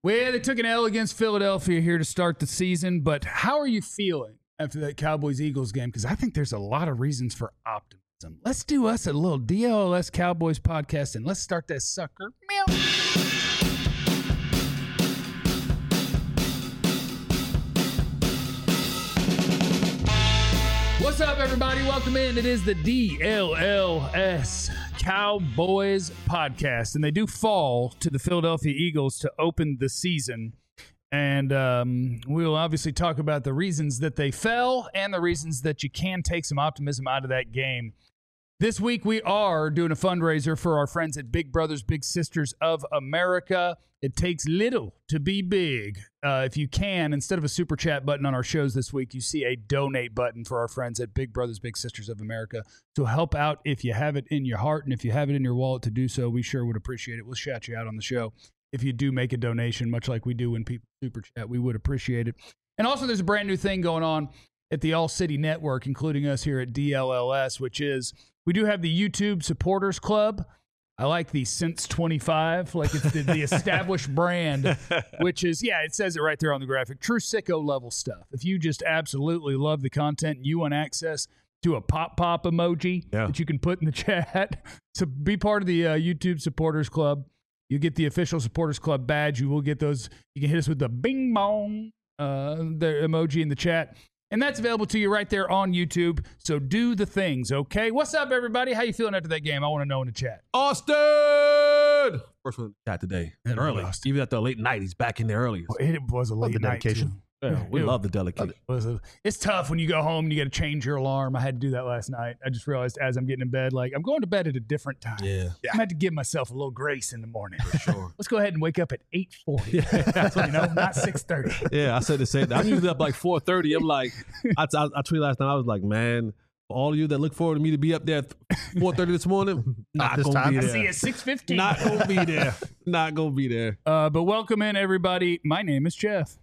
Well, they took an L against Philadelphia here to start the season, but how are you feeling after that Cowboys-Eagles game? Because I think there's a lot of reasons for optimism. Let's do us a little DLS Cowboys podcast, and let's start that sucker. Meow. What's up, everybody? Welcome in. It is the DLLS Cowboys podcast, and they do fall to the Philadelphia Eagles to open the season. And we'll obviously talk about the reasons that they fell and the reasons that you can take some optimism out of that game. This week, we are doing a fundraiser for our friends at Big Brothers Big Sisters of America. It takes little to be big. If you can, instead of a super chat button on our shows this week, you see a donate button for our friends at Big Brothers Big Sisters of America to help out if you have it in your heart and if you have it in your wallet to do so. We sure would appreciate it. We'll shout you out on the show if you do make a donation, much like we do when people super chat. We would appreciate it. And also, there's a brand new thing going on at the All City Network, including us here at DLLS, which is we do have the YouTube Supporters Club. I like the Since 25, like it's the established brand, which is, yeah, it says it right there on the graphic. True sicko level stuff. If you just absolutely love the content and you want access to a pop emoji that you can put in the chat, so be part of the YouTube Supporters Club. You get the official Supporters Club badge. You will get those. You can hit us with the bing bong, the emoji in the chat. And that's available to you right there on YouTube. So do the things, okay? What's up, everybody? How you feeling after that game? I want to know in the chat. Austin! First one in the chat today. Early. Even after a late night, he's back in there early. Well, it was a late night, too. Yeah, we love the dedication. It's tough when you go home and you got to change your alarm. I had to do that last night. I just realized as I'm getting in bed, like, I'm going to bed at a different time. Yeah. I'm going to have to give myself a little grace in the morning. For sure. Let's go ahead and wake up at 8:40. That's what, not 6:30. Yeah, I said the same thing. I'm usually up like 4:30. I'm like, I tweeted last night, I was like, man, for all of you that look forward to me to be up there at 4:30 this morning, not this going to time. be I there. see you at 6:15. Not going to be there. Not going to be there. But welcome in, everybody. My name is Jeff.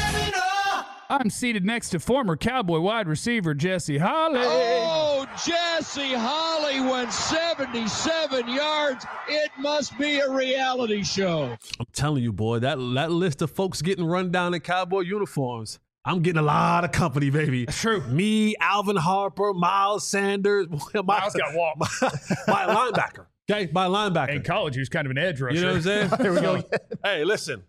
I'm seated next to former Cowboy wide receiver Jesse Holley. Oh, Jesse Holley went 77 yards. It must be a reality show. I'm telling you, boy, that list of folks getting run down in Cowboy uniforms, I'm getting a lot of company, baby. That's true. Me, Alvin Harper, Miles Sanders. Miles got walked. My linebacker. Okay, by linebacker. In college, he was kind of an edge rusher. You know what I'm saying? There we go. Hey, listen.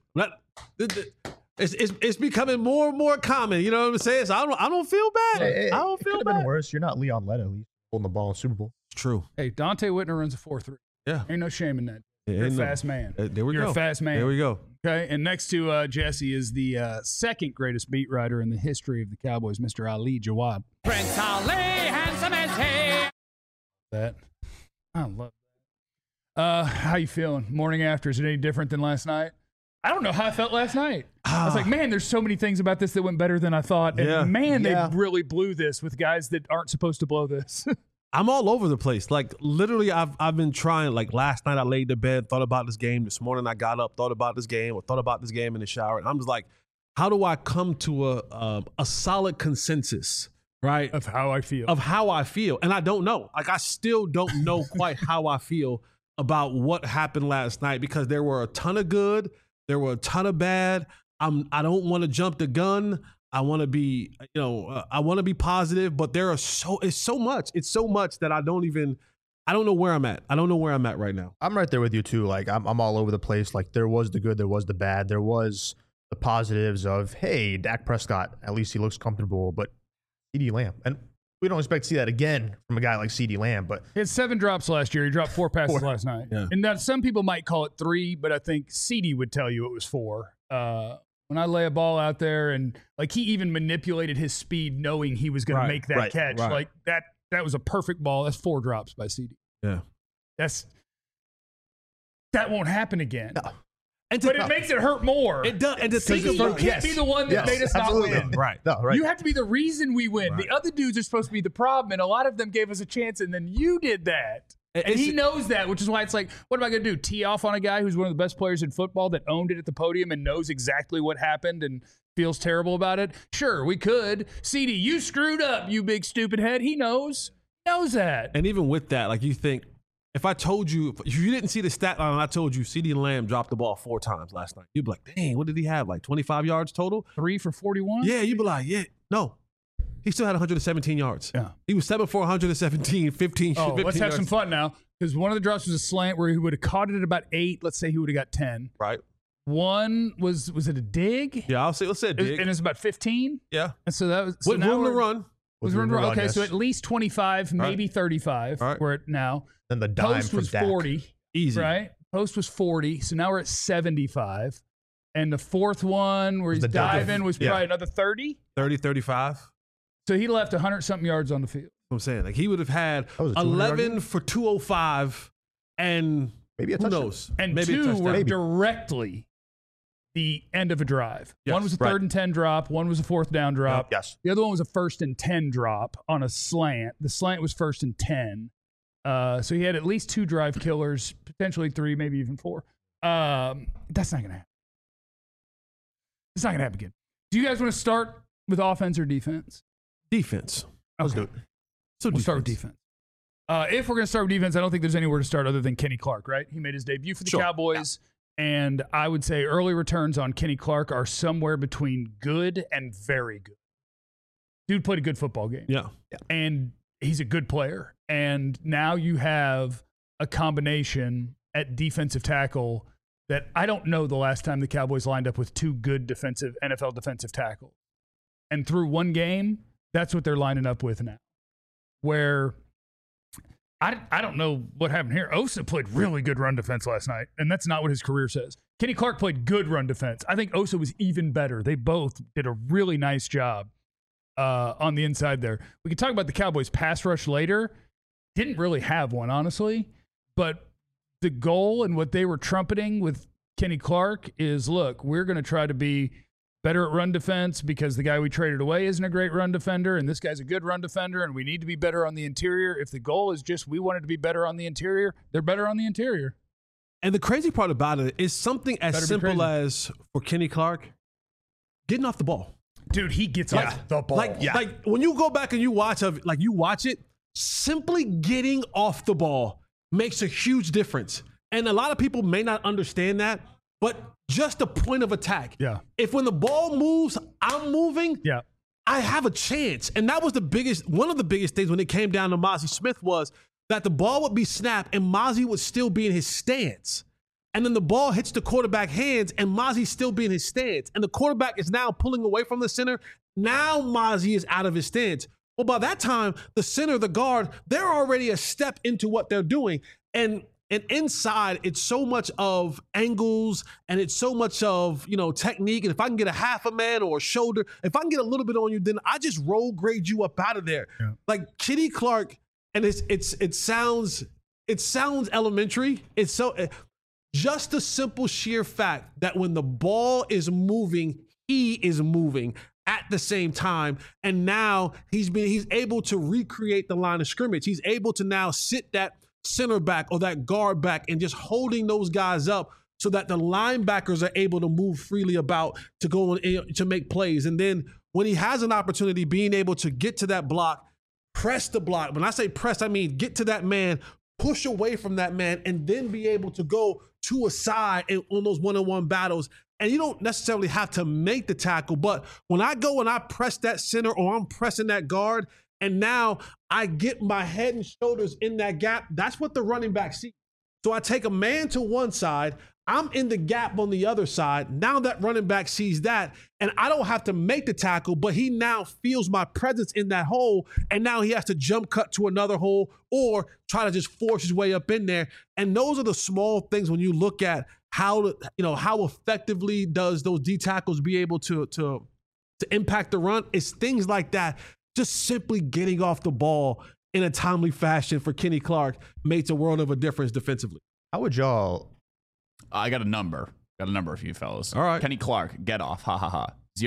It's becoming more and more common. You know what I'm saying? So I don't feel bad. Hey, I don't it feel could have been bad. worse. You're not Leon Lett, at least, holding the ball in Super Bowl. It's true. Hey, Dante Whitner runs a 4.3. Yeah. Ain't no shame in that. Yeah, You're a ain't no- fast man. There we You're go. a fast man. There we go. Okay, and next to Jesse is the second greatest beat writer in the history of the Cowboys, Mr. Ali Jawad. Prince Ali, handsome as he. That I love that. How you feeling? Morning after, is it any different than last night? I don't know how I felt last night. I was like, man, there's so many things about this that went better than I thought. And Yeah. man, Yeah. they really blew this with guys that aren't supposed to blow this. I'm all over the place. Like literally, I've been trying. Like last night, I laid in bed, thought about this game. This morning, I got up, thought about this game, or thought about this game in the shower. And I'm just like, how do I come to a solid consensus, right? Of how I feel. Of how I feel. And I don't know. Like I still don't know quite how I feel about what happened last night because there were a ton of good, there were a ton of bad. I don't want to jump the gun. I want to be, I want to be positive, but it's so much that I don't know where I'm at. I don't know where I'm at right now. I'm right there with you, too. Like, I'm all over the place. Like, there was the good, there was the bad. There was the positives of, hey, Dak Prescott, at least he looks comfortable, but CeeDee Lamb. And we don't expect to see that again from a guy like CeeDee Lamb, but He had 7 drops last year. He dropped 4 passes last night. Yeah. And now some people might call it 3, but I think CD would tell you it was 4. When I lay a ball out there and like he even manipulated his speed knowing he was going to make that catch. right. Like that was a perfect ball. That's 4 drops by CD. Yeah. That won't happen again. No. But it makes it hurt more. It does. And the thing CD, is, you can't be the one that made us absolutely. not win. right. no, right. You have to be the reason we win. Right. The other dudes are supposed to be the problem, and a lot of them gave us a chance, and then you did that. And he knows that, which is why it's like, what am I going to do? Tee off on a guy who's one of the best players in football that owned it at the podium and knows exactly what happened and feels terrible about it? Sure, we could. CD, you screwed up, you big stupid head. He knows that. And even with that, like you think, If I told you, if you didn't see the stat line, and I told you CeeDee Lamb dropped the ball 4 times last night, you'd be like, dang, what did he have? Like 25 yards total? 3 for 41? Yeah, you'd be like, yeah. No. He still had 117 yards. Yeah. He was 7 for 117, 15 Oh, 15 let's have yards. some fun now. Because one of the drops was a slant where he would have caught it at about 8. Let's say he would have got 10. Right. One was it a dig? Yeah, let's say a And dig. it's about 15. Yeah. And so that was With now room to we're- run. Was With room room to to run. run, Okay, so yes. at least 25, maybe 35. All right. We're at now. Then the dime Post from was Dak. 40. Easy. Right? Post was 40. So now we're at 75. And the fourth one where Was he's the dive. diving was Yeah. probably another 30. 30, 35. That's So he left 100-something yards on the field. what I'm saying. Like he would have had That was a 200-yard 11 game? for 205 and Maybe a who touchdown. knows? And Maybe a 2 touchdown. were Maybe. directly the end of a drive. Yes, One was a right. 3rd and 10 drop. One was a 4th down drop. Yes. The other one was a 1st and 10 drop on a slant. The slant was 1st and 10. So he had at least 2 drive killers, potentially 3, maybe even 4. That's not going to happen. It's not going to happen again. Do you guys want to start with offense or defense? Defense. Let's do it. So We'll start with defense. If we're going to start with defense, I don't think there's anywhere to start other than Kenny Clark, right? He made his debut for the Sure. Cowboys, and I would say early returns on Kenny Clark are somewhere between good and very good. Dude played a good football game. Yeah. And he's a good player. And now you have a combination at defensive tackle that I don't know the last time the Cowboys lined up with 2 good NFL defensive tackles. And through one game, that's what they're lining up with now. Where I don't know what happened here. Osa played really good run defense last night, and that's not what his career says. Kenny Clark played good run defense. I think Osa was even better. They both did a really nice job on the inside there. We can talk about the Cowboys' pass rush later. Didn't really have one, honestly. But the goal and what they were trumpeting with Kenny Clark is, look, we're going to try to be better at run defense because the guy we traded away isn't a great run defender, and this guy's a good run defender, and we need to be better on the interior. If the goal is just we wanted to be better on the interior, they're better on the interior. And the crazy part about it is something as Better be simple crazy. as for Kenny Clark, getting off the ball. Dude, he gets off the ball. Like when you go back and you watch it, simply getting off the ball makes a huge difference. And a lot of people may not understand that, but just the point of attack. Yeah. If when the ball moves, I'm moving, Yeah. I have a chance. And that was one of the biggest things when it came down to Mozzie Smith was that the ball would be snapped and Mozzie would still be in his stance. And then the ball hits the quarterback hands and Mozzie's still be in his stance. And the quarterback is now pulling away from the center. Now Mozzie is out of his stance. Well, by that time, the center, the guard, they're already a step into what they're doing. And inside, it's so much of angles and it's so much of, technique. And if I can get a half a man or a shoulder, if I can get a little bit on you, then I just roll grade you up out of there. Yeah. Like Kenny Clark, and it sounds elementary. It's so just the simple sheer fact that when the ball is moving, he is moving at the same time. And now he's able to recreate the line of scrimmage. He's able to now sit that center back or that guard back and just holding those guys up so that the linebackers are able to move freely about to go to make plays. And then when he has an opportunity, being able to get to that block, press the block. When I say press, I mean get to that man, push away from that man, and then be able to go to a side on those one-on-one battles. And you don't necessarily have to make the tackle, but when I go and I press that center or I'm pressing that guard, and now I get my head and shoulders in that gap, that's what the running back sees. So I take a man to one side, I'm in the gap on the other side. Now that running back sees that, and I don't have to make the tackle, but he now feels my presence in that hole, and now he has to jump cut to another hole or try to just force his way up in there. And those are the small things when you look at how effectively does those D tackles be able to impact the run. It's things like that. Just simply getting off the ball in a timely fashion for Kenny Clark makes a world of a difference defensively. How would y'all? I got a number. For you fellas. All right. Kenny Clark, get off. Ha ha ha.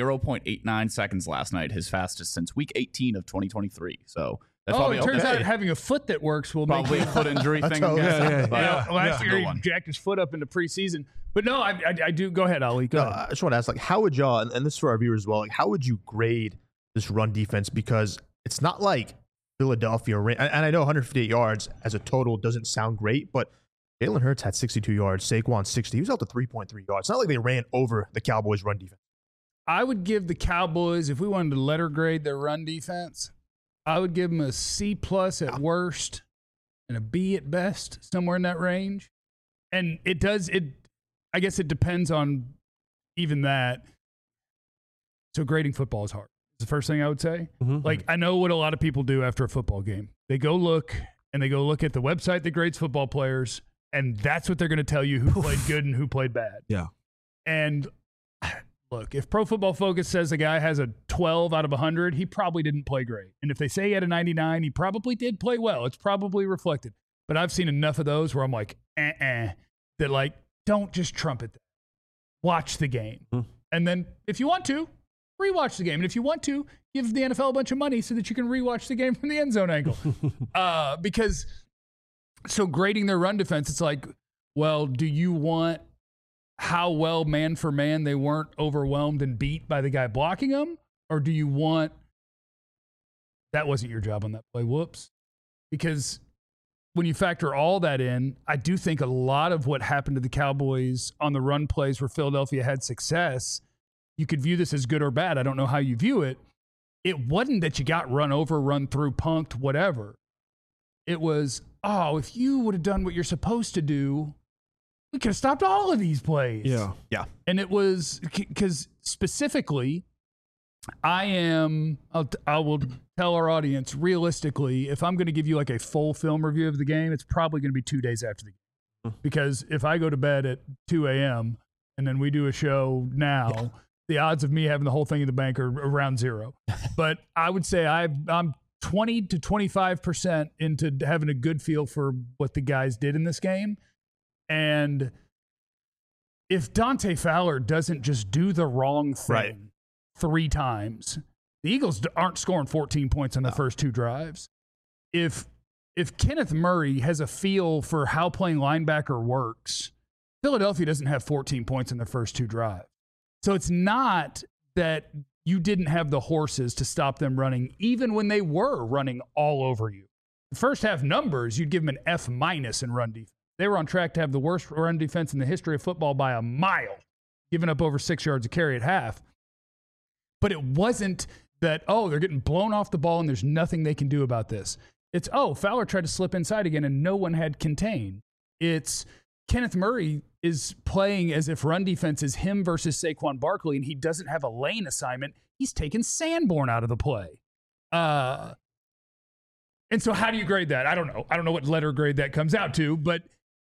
0.89 seconds last night, his fastest since week 18 of 2023. So that's probably it turns okay. out having a foot that works will make Probably a foot injury thing. I'm guessing. But last good year one. he jacked his foot up into preseason. But no, I do. Go ahead, Ali. Go No, ahead. I just want to ask, how would y'all? And this is for our viewers as well. How would you grade this run defense? Because it's not like Philadelphia ran, and I know 158 yards as a total doesn't sound great, but Jalen Hurts had 62 yards, Saquon 60. He was out to 3.3 yards. It's not like they ran over the Cowboys' run defense. I would give the Cowboys, if we wanted to letter grade their run defense, I would give them a C+ at worst and a B at best, somewhere in that range. And I guess it depends on even that. So grading football is hard. It's the first thing I would say. Mm-hmm. Like, I know what a lot of people do after a football game. They go look at the website that grades football players, and that's what they're going to tell you who played good and who played bad. Yeah. And look, if Pro Football Focus says a guy has a 12 out of 100, he probably didn't play great. And if they say he had a 99, he probably did play well. It's probably reflected. But I've seen enough of those where I'm like, that like, don't just trumpet that. Watch the game. Mm. And then if you want to, rewatch the game. And if you want to, give the NFL a bunch of money so that you can rewatch the game from the end zone angle. Because so grading their run defense, it's like, well, do you want how well man for man they weren't overwhelmed and beat by the guy blocking them? Or do you want that wasn't your job on that play? Whoops. Because when you factor all that in, I do think a lot of what happened to the Cowboys on the run plays where Philadelphia had success, you could view this as good or bad. I don't know how you view it. It wasn't that you got run over, run through, punked, whatever. It was, if you would have done what you're supposed to do, we could have stopped all of these plays. Yeah. Yeah. And it was because specifically, I will tell our audience realistically, if I'm going to give you like a full film review of the game, it's probably going to be 2 days after the game. Because if I go to bed at 2 a.m. and then we do a show now, the odds of me having the whole thing in the bank are around zero. But I would say I'm 20 to 25% into having a good feel for what the guys did in this game. And if Dante Fowler doesn't just do the wrong thing 3 times, the Eagles aren't scoring 14 points on the first 2 drives. If Kenneth Murray has a feel for how playing linebacker works, Philadelphia doesn't have 14 points in the first 2 drives. So it's not that you didn't have the horses to stop them running, even when they were running all over you. The first half numbers, you'd give them an F- in run defense. They were on track to have the worst run defense in the history of football by a mile, giving up over 6 yards a carry at half. But it wasn't that, they're getting blown off the ball and there's nothing they can do about this. It's, Fowler tried to slip inside again and no one had contained. It's Kenneth Murray is playing as if run defense is him versus Saquon Barkley, and he doesn't have a lane assignment. He's taken Sanborn out of the play. And so how do you grade that? I don't know. I don't know what letter grade that comes out to, but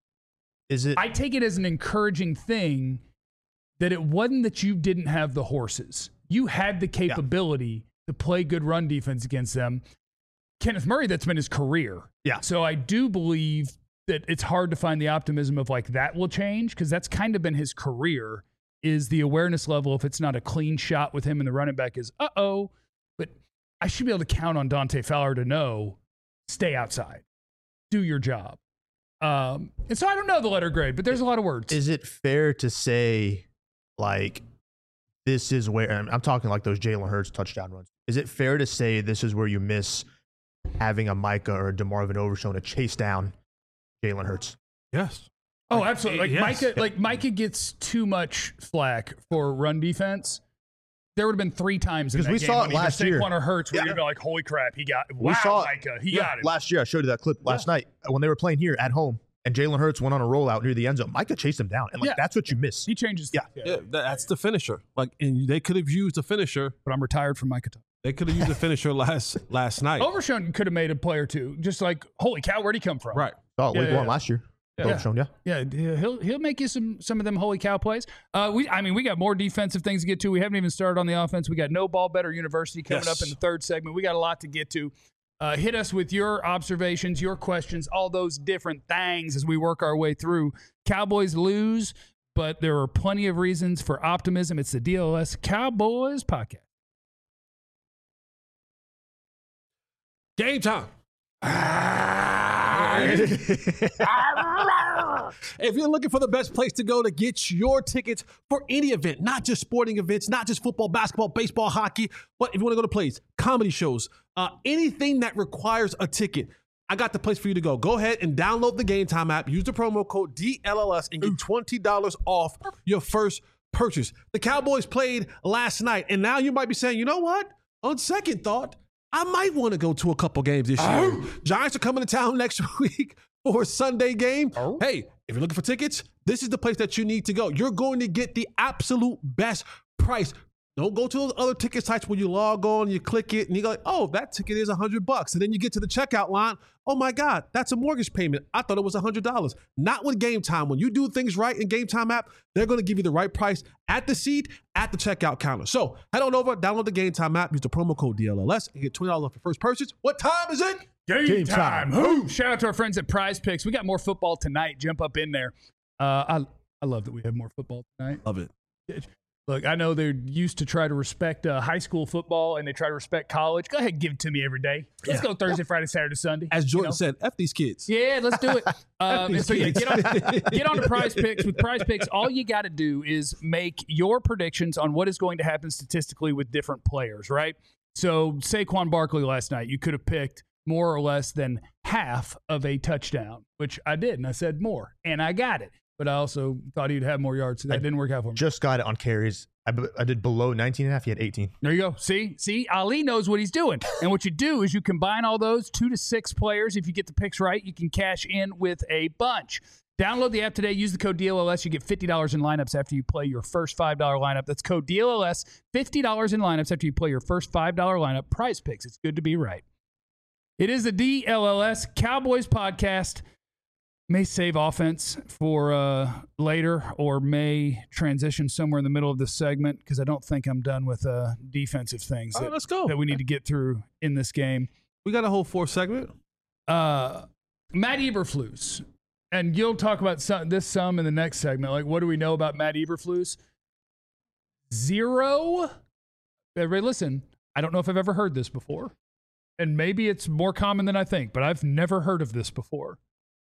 I take it as an encouraging thing that it wasn't that you didn't have the horses. You had the capability to play good run defense against them. Kenneth Murray, that's been his career. Yeah. So I do believe that it's hard to find the optimism of like that will change, because that's kind of been his career, is the awareness level. If it's not a clean shot with him and the running back is, but I should be able to count on Dante Fowler to know, stay outside, do your job. And so I don't know the letter grade, but there's a lot of words. Is it fair to say, like, this is where, and I'm talking like those Jalen Hurts touchdown runs. Is it fair to say this is where you miss having a Micah or a DeMarvin Overshown to chase down Jalen Hurts? Yes. Oh, absolutely. Yes. Micah gets too much flack for run defense. There would have been 3 times in that game. Because we saw it last year. Saquon or Hurts, where you'd be like, holy crap, he got, Micah, he got it. Last year, I showed you that clip last night when they were playing here at home, and Jalen Hurts went on a rollout near the end zone. Micah chased him down, and that's what you miss. He changes. That's the finisher. Like, and they could have used the finisher. But I'm retired from Micah. They could have used the finisher last night. Overshown could have made a play or two. Just like, holy cow, where'd he come from? Right. Oh, week 1 last year. Overshown, he'll make you some of them holy cow plays. We got more defensive things to get to. We haven't even started on the offense. We got No Ball Better University coming up in the 3rd segment. We got a lot to get to. Hit us with your observations, your questions, all those different things as we work our way through. Cowboys lose, but there are plenty of reasons for optimism. It's the DLS Cowboys podcast. Game time. If you're looking for the best place to go to get your tickets for any event, not just sporting events, not just football, basketball, baseball, hockey, but if you want to go to plays, comedy shows, anything that requires a ticket, I got the place for you to go. Go ahead and download the Game Time app. Use the promo code DLLS and get $20 off your first purchase. The Cowboys played last night, and now you might be saying, you know what? On second thought, I might want to go to a couple games this year. Giants are coming to town next week for a Sunday game. Hey, if you're looking for tickets, this is the place that you need to go. You're going to get the absolute best price. Don't go to those other ticket sites where you log on, you click it, and you go like, oh, that ticket is $100. And then you get to the checkout line. Oh my God, that's a mortgage payment. I thought it was $100. Not with Game Time. When you do things right in Game Time app, they're going to give you the right price at the seat, at the checkout counter. So head on over, download the Game Time app, use the promo code DLLS, and get $20 off your first purchase. What time is it? Game time. Woo! Shout out to our friends at Prize Picks. We got more football tonight. Jump up in there. I love that we have more football tonight. Love it. Look, I know they're used to try to respect high school football and they try to respect college. Go ahead and give it to me every day. Let's go Thursday, Friday, Saturday, Sunday. As Jordan said, F these kids. Yeah, let's do it. And so, get on to Prize Picks. With Prize Picks, all you got to do is make your predictions on what is going to happen statistically with different players, right? So, Saquon Barkley last night, you could have picked more or less than half of a touchdown, which I did, and I said more, and I got it. But I also thought he'd have more yards, so that didn't work out for me. Just got it on carries. I did below 19.5. He had 18. There you go. See, Ali knows what he's doing. And what you do is you combine all those 2 to 6 players. If you get the picks right, you can cash in with a bunch. Download the app today. Use the code DLLS. You get $50 in lineups after you play your first $5 lineup. That's code DLLS. $50 in lineups after you play your first $5 lineup. Prize Picks. It's good to be right. It is the DLLS Cowboys podcast. May save offense for later or may transition somewhere in the middle of this segment because I don't think I'm done with defensive things Let's go. that we need to get through in this game. We got a whole 4th segment. Matt Eberflus, and you'll talk about some in the next segment. Like, what do we know about Matt Eberflus? 0. Everybody listen, I don't know if I've ever heard this before, and maybe it's more common than I think, but I've never heard of this before.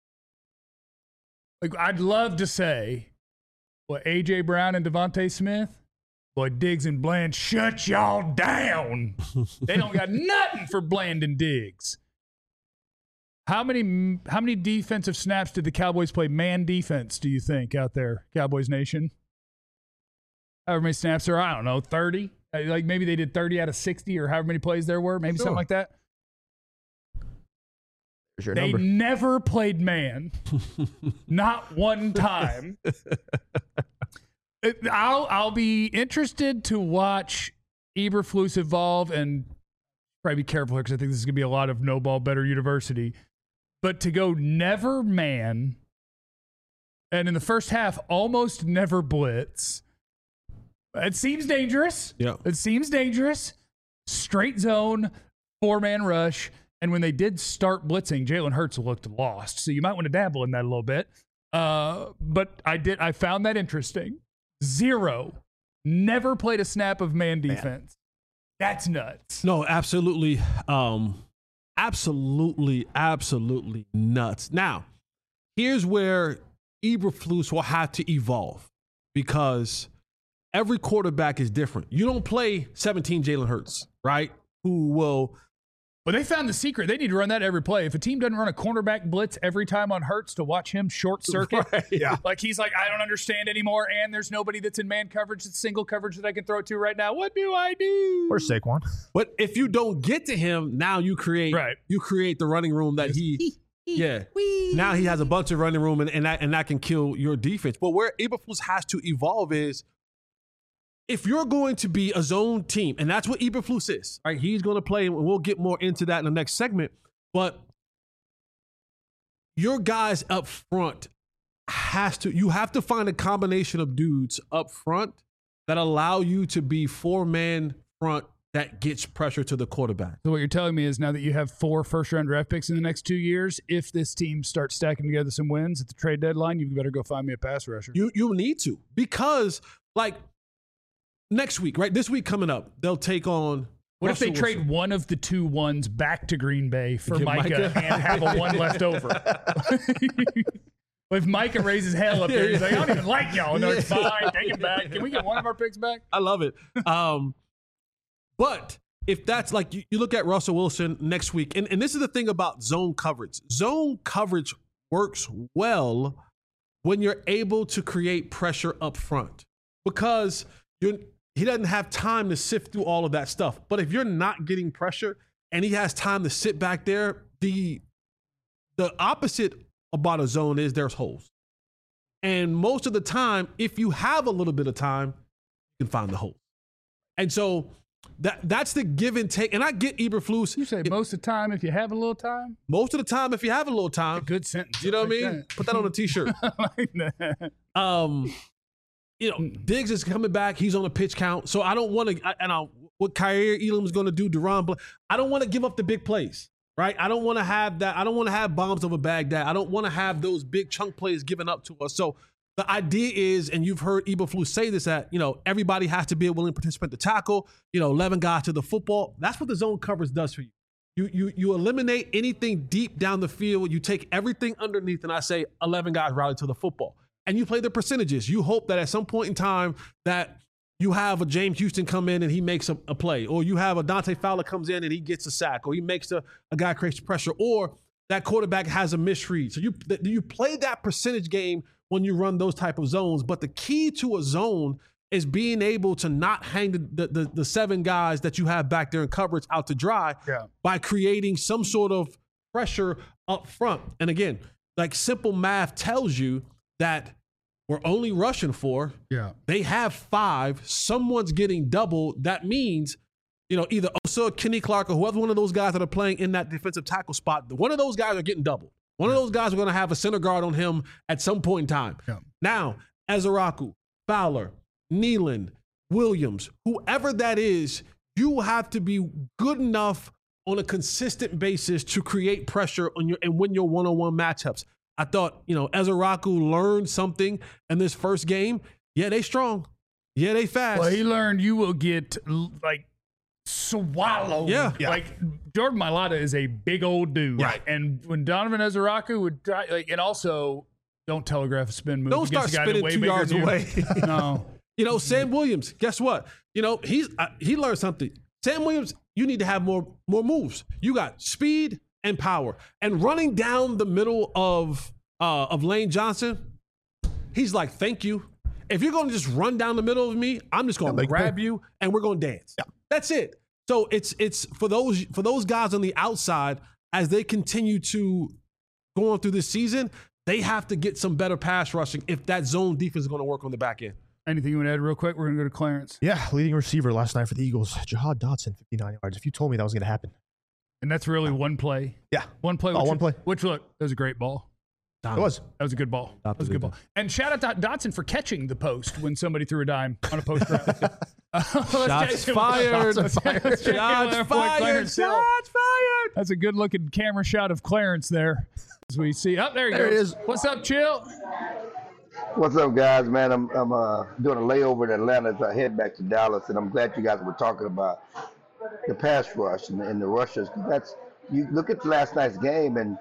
Like, I'd love to say, well, A.J. Brown and Devontae Smith, boy, Diggs and Bland, shut y'all down. They don't got nothing for Bland and Diggs. How many defensive snaps did the Cowboys play man defense, do you think, out there, Cowboys Nation? However many snaps there are, I don't know, 30? Like, maybe they did 30 out of 60 or however many plays there were, maybe something like that. They never played man. Not one time. I'll be interested to watch Eberflus evolve and probably be careful here because I think this is going to be a lot of no ball better university. But to go never man and in the first half almost never blitz, it seems dangerous. Yeah. It seems dangerous. Straight zone, 4-man rush. And when they did start blitzing, Jalen Hurts looked lost. So you might want to dabble in that a little bit. But I found that interesting. 0. Never played a snap of man defense. That's nuts. No, absolutely. Absolutely nuts. Now, here's where Eberflus will have to evolve because every quarterback is different. You don't play 17 Jalen Hurts, right? Who will... Well, they found the secret. They need to run that every play. If a team doesn't run a cornerback blitz every time on Hurts to watch him short circuit, like he's like, I don't understand anymore, and there's nobody that's in man coverage, that's single coverage that I can throw it to right now. What do I do? Where's Saquon? But if you don't get to him, now you create the running room that now he has a bunch of running room and that can kill your defense. But where Eberflus has to evolve is if you're going to be a zone team, and that's what Eberflus is, right? He's going to play, and we'll get more into that in the next segment. But your guys up front you have to find a combination of dudes up front that allow you to be 4-man front that gets pressure to the quarterback. So what you're telling me is now that you have 4 first-round draft picks in the next 2 years, if this team starts stacking together some wins at the trade deadline, you better go find me a pass rusher. You need to, because like next week, right? This week coming up, they'll take on. What if they trade one of the 2 ones back to Green Bay for Micah and have a 1 left over? If Micah raises hell up there, he's like, I don't even like y'all. No, it's fine. Take him back. Can we get one of our picks back? I love it. But if that's like you look at Russell Wilson next week, and this is the thing about zone coverage. Zone coverage works well when you're able to create pressure up front because he doesn't have time to sift through all of that stuff. But if you're not getting pressure and he has time to sit back there, the opposite about a zone is there's holes. And most of the time, if you have a little bit of time, you can find the hole. And so that's the give and take. And I get Eberflus. You say most of the time if you have a little time? Most of the time if you have a little time. Good sentence. You know what I mean? Put that on a T-shirt. Like that. Diggs is coming back. He's on a pitch count. So I don't want to, what Kaiir Elam is going to do, I don't want to give up the big plays, right? I don't want to have that. I don't want to have bombs over Baghdad. I don't want to have those big chunk plays given up to us. So the idea is, and you've heard Eberflus say this, that, everybody has to be a willing participant to tackle, 11 guys to the football. That's what the zone coverage does for you. You eliminate anything deep down the field. You take everything underneath, and I say 11 guys rally to the football. And you play the percentages. You hope that at some point in time that you have a James Houston come in and he makes a play, or you have a Dante Fowler comes in and he gets a sack, or he makes a guy creates pressure, or that quarterback has a misread. So you play that percentage game when you run those type of zones. But the key to a zone is being able to not hang the 7 guys that you have back there in coverage out to dry by creating some sort of pressure up front. And again, like simple math tells you that we're only rushing 4. Yeah. They have 5. Someone's getting double. That means, either Osa or Kenny Clark or whoever one of those guys that are playing in that defensive tackle spot, one of those guys are getting doubled. One of those guys are going to have a center guard on him at some point in time. Yeah. Now, Ezeraku, Fowler, Nealon, Williams, whoever that is, you have to be good enough on a consistent basis to create pressure on and win your one-on-one matchups. I thought, Ezeraku learned something in this first game. Yeah, they strong. Yeah, they fast. Well, he learned you will get swallowed. Yeah. Like Jordan Mailata is a big old dude. Right. And when Donovan Ezeraku would try, and also don't telegraph a spin move. Don't start spinning 2 yards away. No. Sam Williams, guess what? He learned something. Sam Williams, you need to have more moves. You got speed and power. And running down the middle of Lane Johnson, he's like, thank you. If you're going to just run down the middle of me, I'm just going to grab you and we're going to dance. Yeah. That's it. So it's for those guys on the outside, as they continue to go on through this season, they have to get some better pass rushing if that zone defense is going to work on the back end. Anything you want to add real quick? We're going to go to Clarence. Yeah, leading receiver last night for the Eagles, Jahad Dotson, 59 yards. If you told me that was going to happen. And that's really one play. Yeah. One play. One play. Which, look, that was a great ball. It was. That was a good ball. That was a good ball. And shout out to Dotson for catching the post when somebody threw a dime on a post route. Shots fired. Shots fired. That's a good looking camera shot of Clarence there. As we see. There he is. What's up, Chill? What's up, guys? Man, I'm doing a layover in Atlanta as I head back to Dallas, and I'm glad you guys were talking about the pass rush and the rushers. You look at last night's game, and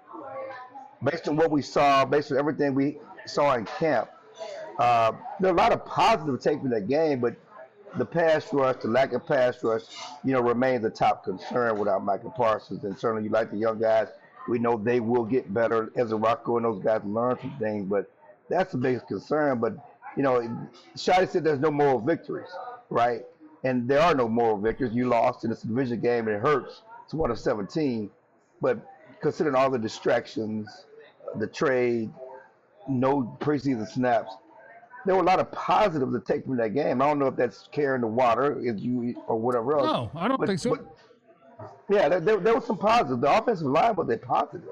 based on what we saw, based on everything we saw in camp, there are a lot of positive take from that game, but the pass rush, the lack of pass rush, remains a top concern without Michael Parsons. And certainly you like the young guys. We know they will get better. Ezeraku and those guys learn some things, but that's the biggest concern. But, Shotty said there's no moral victories, right? And there are no moral victories. You lost in this division game, and it hurts. It's 1 of 17. But considering all the distractions, the trade, no preseason snaps, there were a lot of positives to take from that game. I don't know if that's carrying the water or whatever else. No, I don't think so. But, yeah, there was some positives. The offensive line was a positive.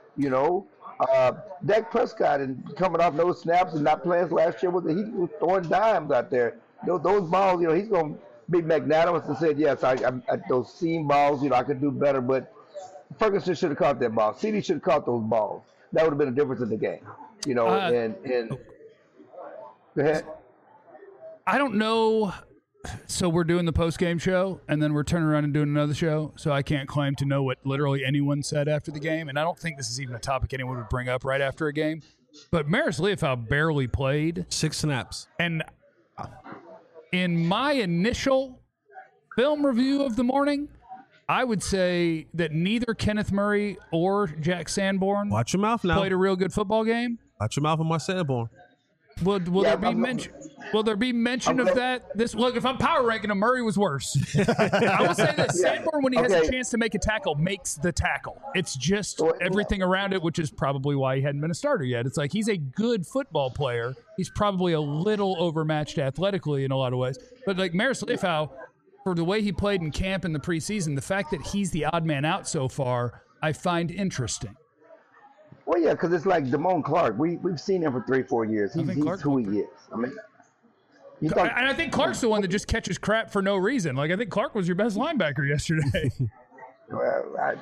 Dak Prescott and coming off no snaps and not playing last year, he was throwing dimes out there. Those balls, he's going to be magnanimous and said, yes, I those seam balls, I could do better. But Ferguson should have caught that ball. CD should have caught those balls. That would have been a difference in the game. And go ahead. I don't know. So we're doing the post-game show, and then we're turning around and doing another show, so I can't claim to know what literally anyone said after the game, and I don't think this is even a topic anyone would bring up right after a game. But Maris Leofow barely played. 6 snaps. And in my initial film review of the morning, I would say that neither Kenneth Murray or Jack Sanborn Watch your mouth now. played a real good football game. Watch your mouth on my Sanborn. Will there be mention of that? Look, if I'm power ranking him, Murray was worse. I will say this: Sanborn, when he has a chance to make a tackle, makes the tackle. It's just everything around it, which is probably why he hadn't been a starter yet. It's like he's a good football player. He's probably a little overmatched athletically in a lot of ways. But like Maris Leafau, for the way he played in camp in the preseason, the fact that he's the odd man out so far, I find interesting. Well, yeah, because it's like Damone Clark. We've seen him for 3-4 years. He's who he is. I mean, and I think Clark's the one that just catches crap for no reason. Like, I think Clark was your best linebacker yesterday. Well,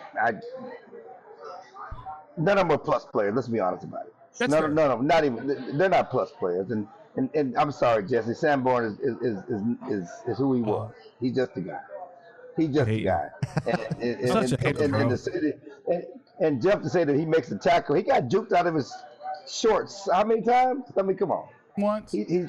none of them are plus players. Let's be honest about it. None of them, not even. They're not plus players. And I'm sorry, Jesse. Sanborn is who he was. He's just a guy. He's just a guy. And Jeff to say that he makes the tackle, he got juked out of his shorts. How many times? I mean, come on. Once. His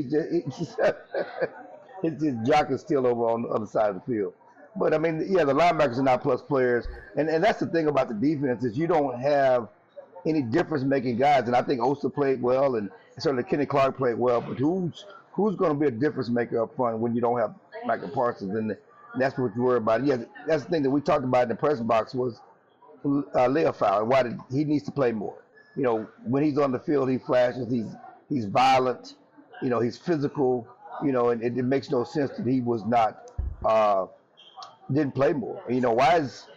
jock is still over on the other side of the field. But I mean, yeah, the linebackers are not plus players, and that's the thing about the defense is you don't have any difference-making guys. And I think Osa played well, and certainly Kenny Clark played well. But who's going to be a difference maker up front when you don't have Michael Parsons? And that's what you worry about. Yeah, that's the thing that we talked about in the press box was Leafau, and why he needs to play more. You know, when he's on the field, he flashes. He's violent. You know, he's physical. You know, and it makes no sense that he was not didn't play more. You know, why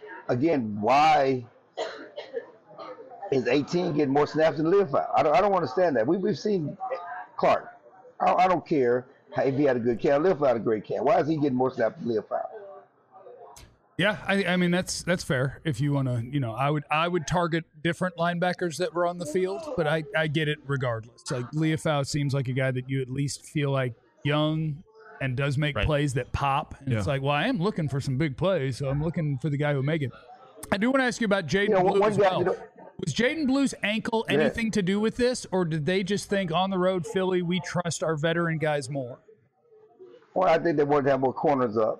is 18 getting more snaps than Leafau? I don't understand that. We've seen Clark. I don't care if he had a good camp. Leafau had a great camp. Why is he getting more snaps than Leafau? Yeah, I mean that's fair. If you want to, you know, I would target different linebackers that were on the field, but I get it regardless. Like Leafau seems like a guy that you at least feel like young and does make plays that pop. And it's like, well, I am looking for some big plays, so I'm looking for the guy who will make it. I do want to ask you about Jaden Blue as well. Was Jaden Blue's ankle anything to do with this, or did they just think on the road, Philly, we trust our veteran guys more? Well, I think they wanted to have more corners up.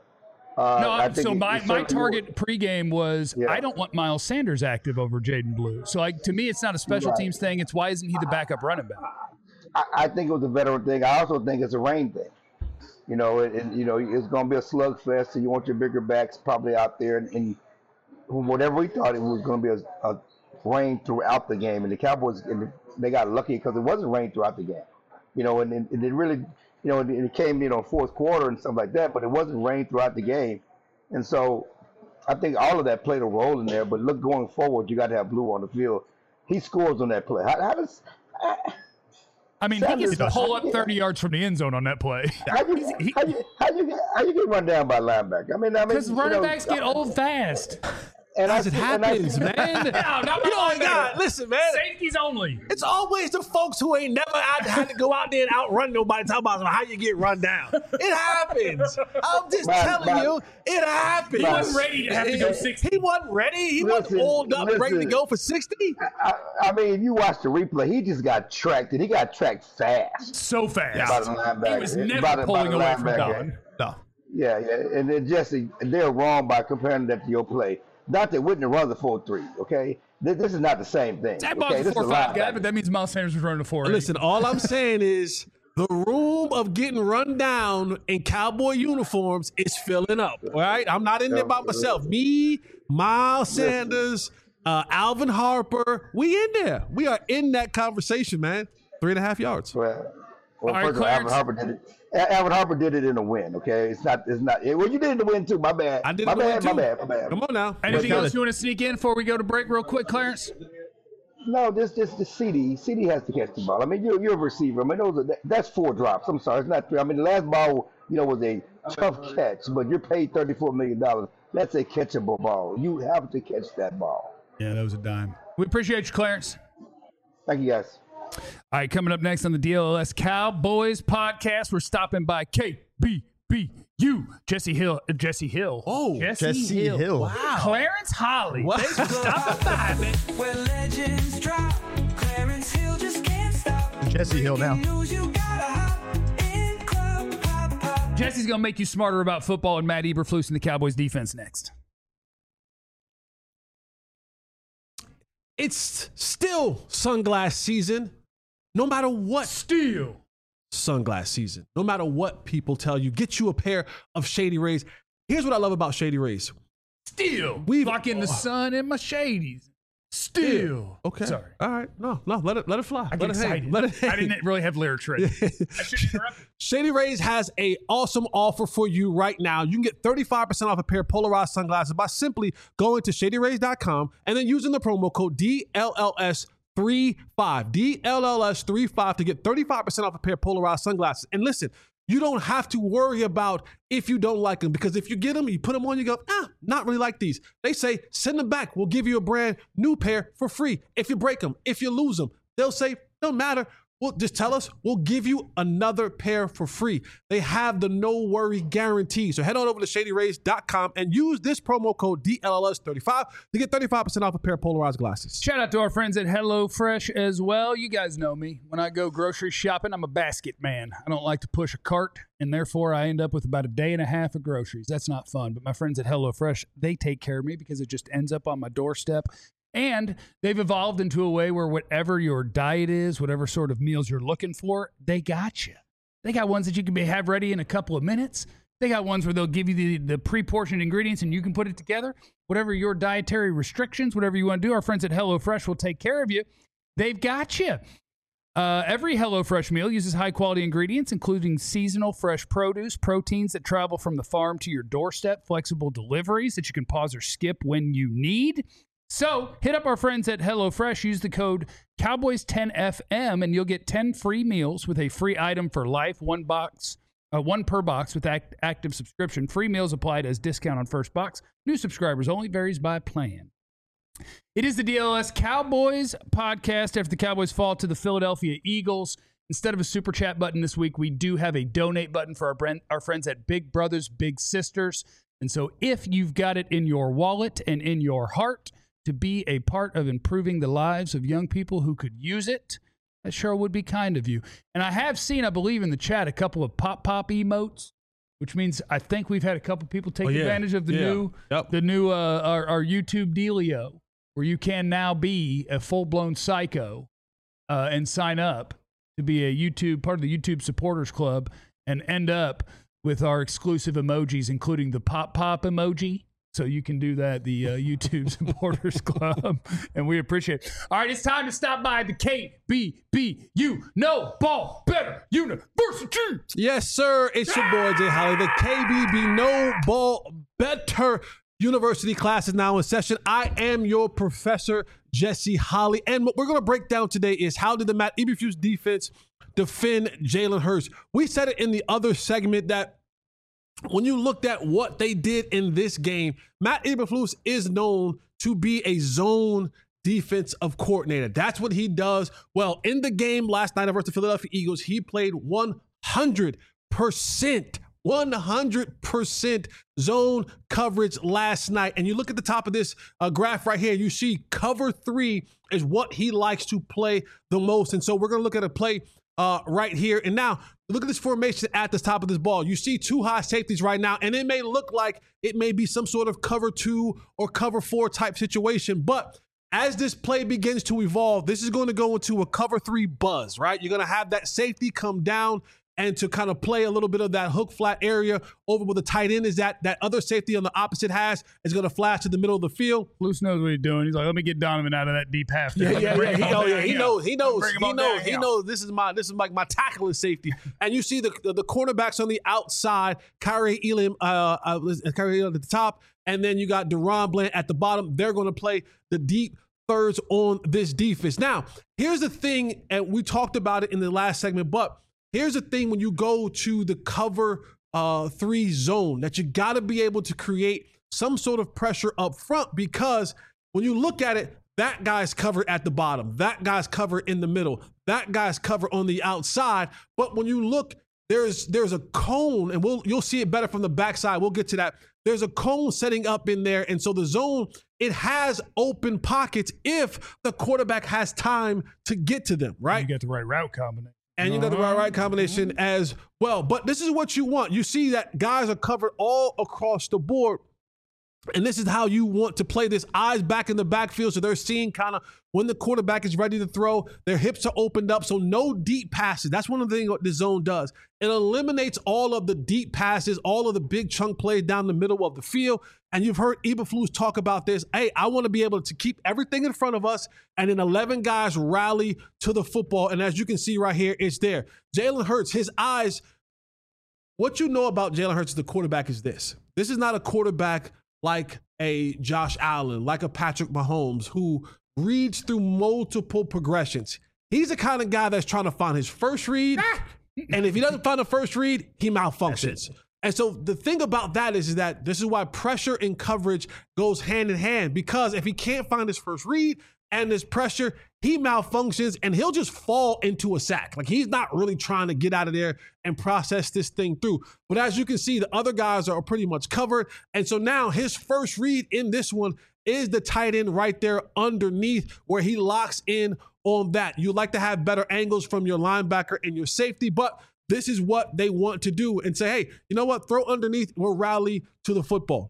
My target pregame was I don't want Miles Sanders active over Jaden Blue. So, like, to me, it's not a special teams thing. It's why isn't he the backup running back? I think it was a veteran thing. I also think it's a rain thing. You know, and you know it's going to be a slugfest, so you want your bigger backs probably out there. And whatever we thought it was going to be a rain throughout the game. And the Cowboys, they got lucky because it wasn't rain throughout the game. You know, and it really – you know, it came, you know, fourth quarter and stuff like that, but it wasn't rain throughout the game. And so I think all of that played a role in there. But look, going forward, you got to have Blue on the field. He scores on that play. How does I mean, he gets to pull up 30 yards from the end zone on that play. How you get run down by linebacker? I mean, because running backs get old fast. And as it happens, man. Listen, man. Safeties only. It's always the folks who ain't never had to go out there and outrun nobody talking about how you get run down. It happens. I'm just telling you, it happens. He wasn't ready to have to go 60. He wasn't ready. He wasn't oiled up, ready to go for 60. I mean, if you watch the replay, he just got tracked, and he got tracked fast. So fast. Yeah. He was never pulling away from Don. No. Yeah. And then, Jesse, they're wrong by comparing that to your play. Not that Whitney runs a 4.3, okay? This is not the same thing. Zach Bob's a 4.5 guy, but that means Miles Sanders was running a 4.8. Listen, all I'm saying is the room of getting run down in Cowboy uniforms is filling up, all right? I'm not in there by myself. Me, Miles Sanders, Alvin Harper, we in there. We are in that conversation, man. 3.5 yards. Well, first of all, Alvin Harper did it in a win, okay? It's not. Well, you did it in a win too. My bad. I did my it bad. too. My bad. Come on now. Anything else you want to sneak in before we go to break real quick, Clarence? No, just the CD. CD has to catch the ball. I mean, you're a receiver. I mean, that's 4 drops. I'm sorry, it's not 3. I mean, the last ball, you know, was a tough catch, but you're paid $34 million. That's a catchable ball. You have to catch that ball. Yeah, that was a dime. We appreciate you, Clarence. Thank you, guys. All right, coming up next on the DLS Cowboys podcast, we're stopping by KBBU. Jesse Hill. Oh, Jesse Hill. Wow. Clarence Holly. Wow. Thanks for stopping by, man. Where legends drop, Clarence Hill just can't stop. Jesse Hill now. You gotta hop in Club Pop Pop. Jesse's going to make you smarter about football and Matt Eberflus and the Cowboys defense next. It's still sunglass season, no matter what. Still Sunglass season. No matter what people tell you, get you a pair of Shady Rays. Here's what I love about Shady Rays. Still. We've- Lock in the sun in my shadies. Still. Okay. Sorry. All right. No, let it fly. I Let get it hang. excited. Let it hang. I didn't really have lyrics ready. I shouldn't interrupt. Shady Rays has a awesome offer for you right now. You can get 35% off a pair of polarized sunglasses by simply going to shadyrays.com and then using the promo code DLLS35. DLLS35 to get 35% off a pair of polarized sunglasses. And listen, you don't have to worry about if you don't like them, because if you get them, you put them on, you go, not really like these. They say, send them back. We'll give you a brand new pair for free. If you break them, if you lose them, they'll say, don't matter. Well, just tell us. We'll give you another pair for free. They have the no worry guarantee. So head on over to shadyrays.com and use this promo code DLLS35 to get 35% off a pair of polarized glasses. Shout out to our friends at HelloFresh as well. You guys know me. When I go grocery shopping, I'm a basket man. I don't like to push a cart, and therefore I end up with about a day and a half of groceries. That's not fun. But my friends at HelloFresh, they take care of me because it just ends up on my doorstep. And they've evolved into a way where whatever your diet is, whatever sort of meals you're looking for, they got you. They got ones that you can have ready in a couple of minutes. They got ones where they'll give you the pre-portioned ingredients and you can put it together. Whatever your dietary restrictions, whatever you want to do, our friends at HelloFresh will take care of you. They've got you. Every HelloFresh meal uses high-quality ingredients, including seasonal fresh produce, proteins that travel from the farm to your doorstep, flexible deliveries that you can pause or skip when you need. So hit up our friends at HelloFresh. Use the code Cowboys10FM, and you'll get 10 free meals with a free item for life, one per box with active subscription. Free meals applied as discount on first box. New subscribers only, varies by plan. It is the DLS Cowboys podcast after the Cowboys fall to the Philadelphia Eagles. Instead of a super chat button this week, we do have a donate button for our friends at Big Brothers Big Sisters. And so if you've got it in your wallet and in your heart to be a part of improving the lives of young people who could use it, that sure would be kind of you. And I have seen, I believe in the chat, a couple of pop emotes, which means I think we've had a couple people take advantage of the new our YouTube dealio, where you can now be a full-blown psycho and sign up to be a part of the YouTube supporters club and end up with our exclusive emojis, including the pop emoji. So you can do that, the YouTube supporters club, and we appreciate it. All right, it's time to stop by the KBBU No Ball Better University. Yes, sir. It's your boy, Jay Holly. The KBB No Ball Better University class is now in session. I am your professor, Jesse Holly. And what we're going to break down today is how did the Matt Eberflus defense defend Jalen Hurts? We said it in the other segment that when you looked at what they did in this game, Matt Eberflus is known to be a zone defensive coordinator. That's what he does. Well, in the game last night versus the Philadelphia Eagles, he played 100% zone coverage last night. And you look at the top of this graph right here, you see cover 3 is what he likes to play the most. And so we're going to look at a play right here. And now look at this formation at the top of this ball. You see 2 high safeties right now, and it may look like it may be some sort of cover 2 or cover 4 type situation. But as this play begins to evolve, this is going to go into a cover 3 buzz, right? You're going to have that safety come down and to kind of play a little bit of that hook flat area over where the tight end is that other safety on the opposite hash is going to flash to the middle of the field. Luce knows what he's doing. He's like, let me get Donovan out of that deep half. He knows. This is my tackling safety. And you see the cornerbacks on the outside, Kyrie Elam at the top, and then you got Deron Bland at the bottom. They're going to play the deep thirds on this defense. Now, here's the thing, and we talked about it in the last segment, but here's the thing when you go to the cover 3 zone, that you got to be able to create some sort of pressure up front, because when you look at it, that guy's covered at the bottom, that guy's covered in the middle, that guy's covered on the outside. But when you look, there's a cone, and you'll see it better from the backside. We'll get to that. There's a cone setting up in there, and so the zone, it has open pockets if the quarterback has time to get to them, right? You get the right route combination. and you know the right combination as well. But this is what you want. You see that guys are covered all across the board. And this is how you want to play this. Eyes back in the backfield, so they're seeing kind of when the quarterback is ready to throw. Their hips are opened up, so no deep passes. That's one of the things what the zone does. It eliminates all of the deep passes, all of the big chunk plays down the middle of the field. And you've heard Eberflus talk about this. Hey, I want to be able to keep everything in front of us, and then 11 guys rally to the football. And as you can see right here, it's there. Jalen Hurts, his eyes. What you know about Jalen Hurts, the quarterback, is this. This is not a quarterback like a Josh Allen, like a Patrick Mahomes, who reads through multiple progressions. He's the kind of guy that's trying to find his first read, and if he doesn't find the first read, he malfunctions. And so the thing about that is that this is why pressure and coverage goes hand in hand, because if he can't find his first read and this pressure, he malfunctions and he'll just fall into a sack. Like, he's not really trying to get out of there and process this thing through. But as you can see, the other guys are pretty much covered. And so now his first read in this one is the tight end right there underneath, where he locks in on that. You like to have better angles from your linebacker and your safety, but this is what they want to do and say, hey, you know what? Throw underneath, we'll rally to the football.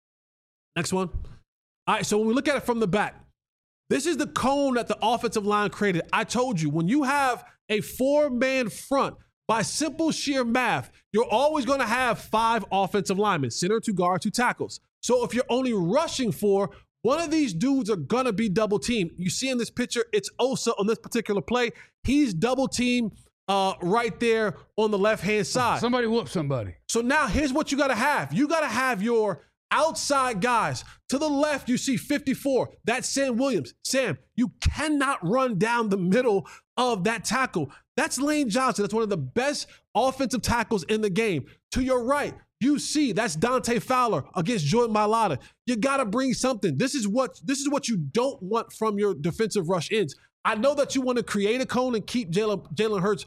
Next one. All right, so when we look at it from the back, this is the cone that the offensive line created. I told you, when you have a 4-man front, by simple sheer math, you're always going to have 5 offensive linemen, center, 2 guards, 2 tackles. So if you're only rushing 4, one of these dudes are going to be double teamed. You see in this picture, it's Osa on this particular play. He's double teamed right there on the left-hand side. Somebody whoop somebody. So now here's what you got to have. You got to have your outside guys. To the left, you see 54. That's Sam Williams. Sam, you cannot run down the middle of that tackle. That's Lane Johnson. That's one of the best offensive tackles in the game. To your right, you see that's Dante Fowler against Jordan Mailata. You got to bring something. This is what you don't want from your defensive rush ends. I know that you want to create a cone and keep Jalen Hurts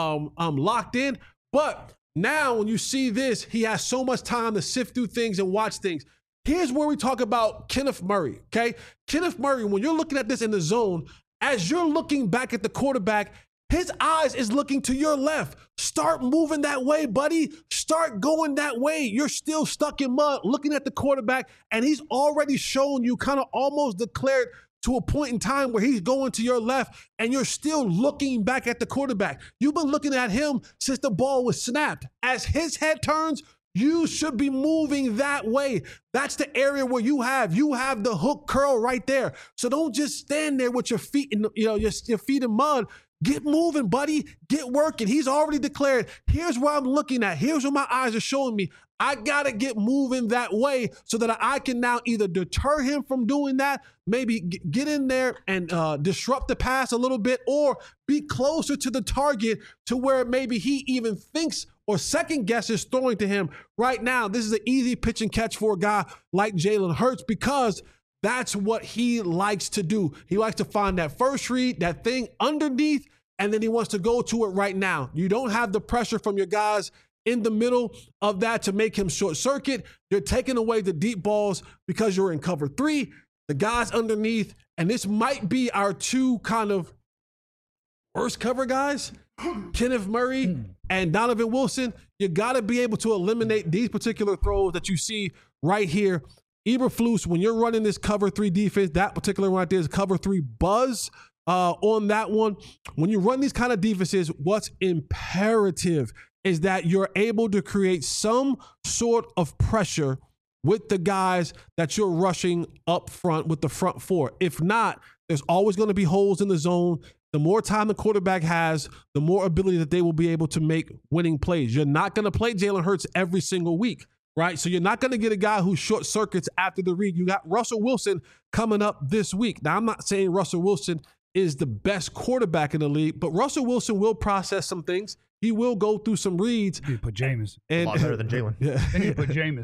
locked in, but now when you see this, he has so much time to sift through things and watch things. Here's where we talk about Kenneth Murray, okay? Kenneth Murray, when you're looking at this in the zone, as you're looking back at the quarterback, his eyes is looking to your left. Start moving that way, buddy. Start going that way. You're still stuck in mud looking at the quarterback, and he's already shown you, kind of almost declared to a point in time where he's going to your left, and you're still looking back at the quarterback. You've been looking at him since the ball was snapped. As his head turns, you should be moving that way. That's the area where you have the hook curl right there. So don't just stand there with your feet in your feet in mud. Get moving, buddy. Get working. He's already declared, here's where I'm looking at. Here's what my eyes are showing me. I got to get moving that way so that I can now either deter him from doing that, maybe get in there and disrupt the pass a little bit, or be closer to the target to where maybe he even thinks or second guesses throwing to him. Right now, this is an easy pitch and catch for a guy like Jalen Hurts, because that's what he likes to do. He likes to find that first read, that thing underneath, and then he wants to go to it right now. You don't have the pressure from your guys in the middle of that to make him short circuit. You're taking away the deep balls because you're in cover 3, the guys underneath, and this might be our 2 kind of worst cover guys, Kenneth Murray and Donovan Wilson. You got to be able to eliminate these particular throws that you see right here. Eberflus, when you're running this cover 3 defense, that particular one right there is cover 3 buzz on that one. When you run these kind of defenses, what's imperative is that you're able to create some sort of pressure with the guys that you're rushing up front with the front 4. If not, there's always going to be holes in the zone. The more time the quarterback has, the more ability that they will be able to make winning plays. You're not going to play Jalen Hurts every single week, right? So you're not going to get a guy who short circuits after the read. You got Russell Wilson coming up this week. Now, I'm not saying Russell Wilson is the best quarterback in the league, but Russell Wilson will process some things. He will go through some reads. You put Jameis. A lot better than Jalen. Yeah. And you put Jameis.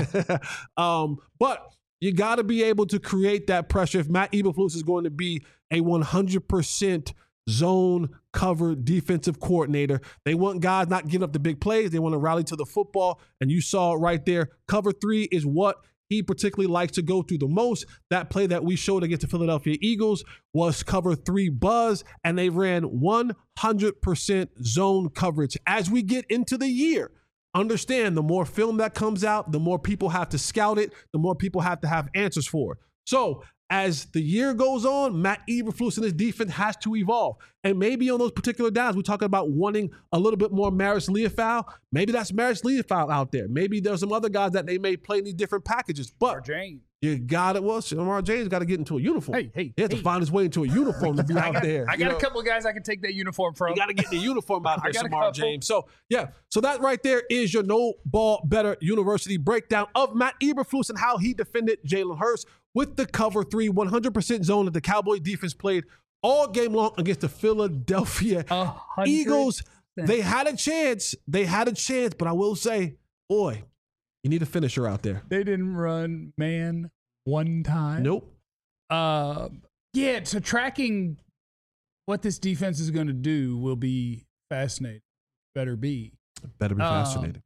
But you got to be able to create that pressure. If Matt Eberflus is going to be a 100% zone cover defensive coordinator, they want guys not giving up the big plays. They want to rally to the football. And you saw it right there. Cover 3 is what he particularly likes to go through the most. That play that we showed against the Philadelphia Eagles was cover 3 buzz, and they ran 100% zone coverage. As we get into the year, understand the more film that comes out, the more people have to scout it, the more people have to have answers for it. So as the year goes on, Matt Eberflus and his defense has to evolve. And maybe on those particular downs, we're talking about wanting a little bit more Maris Leofau. Maybe that's Maris Leofau out there. Maybe there's some other guys that they may play in these different packages. But James. you got it. Well, Shamar James got to get into a uniform. He has to find his way into a uniform to be out there. I got a couple of guys I can take that uniform from. You got to get the uniform out there, Shamar James. So, yeah. So that right there is your No Ball Better University breakdown of Matt Eberflus and how he defended Jalen Hurts with the cover 3, 100% zone that the Cowboys defense played all game long against the Philadelphia Eagles. They had a chance. But I will say, boy, you need a finisher out there. They didn't run man one time. Nope. Yeah, so tracking what this defense is going to do will be fascinating. Better be fascinating.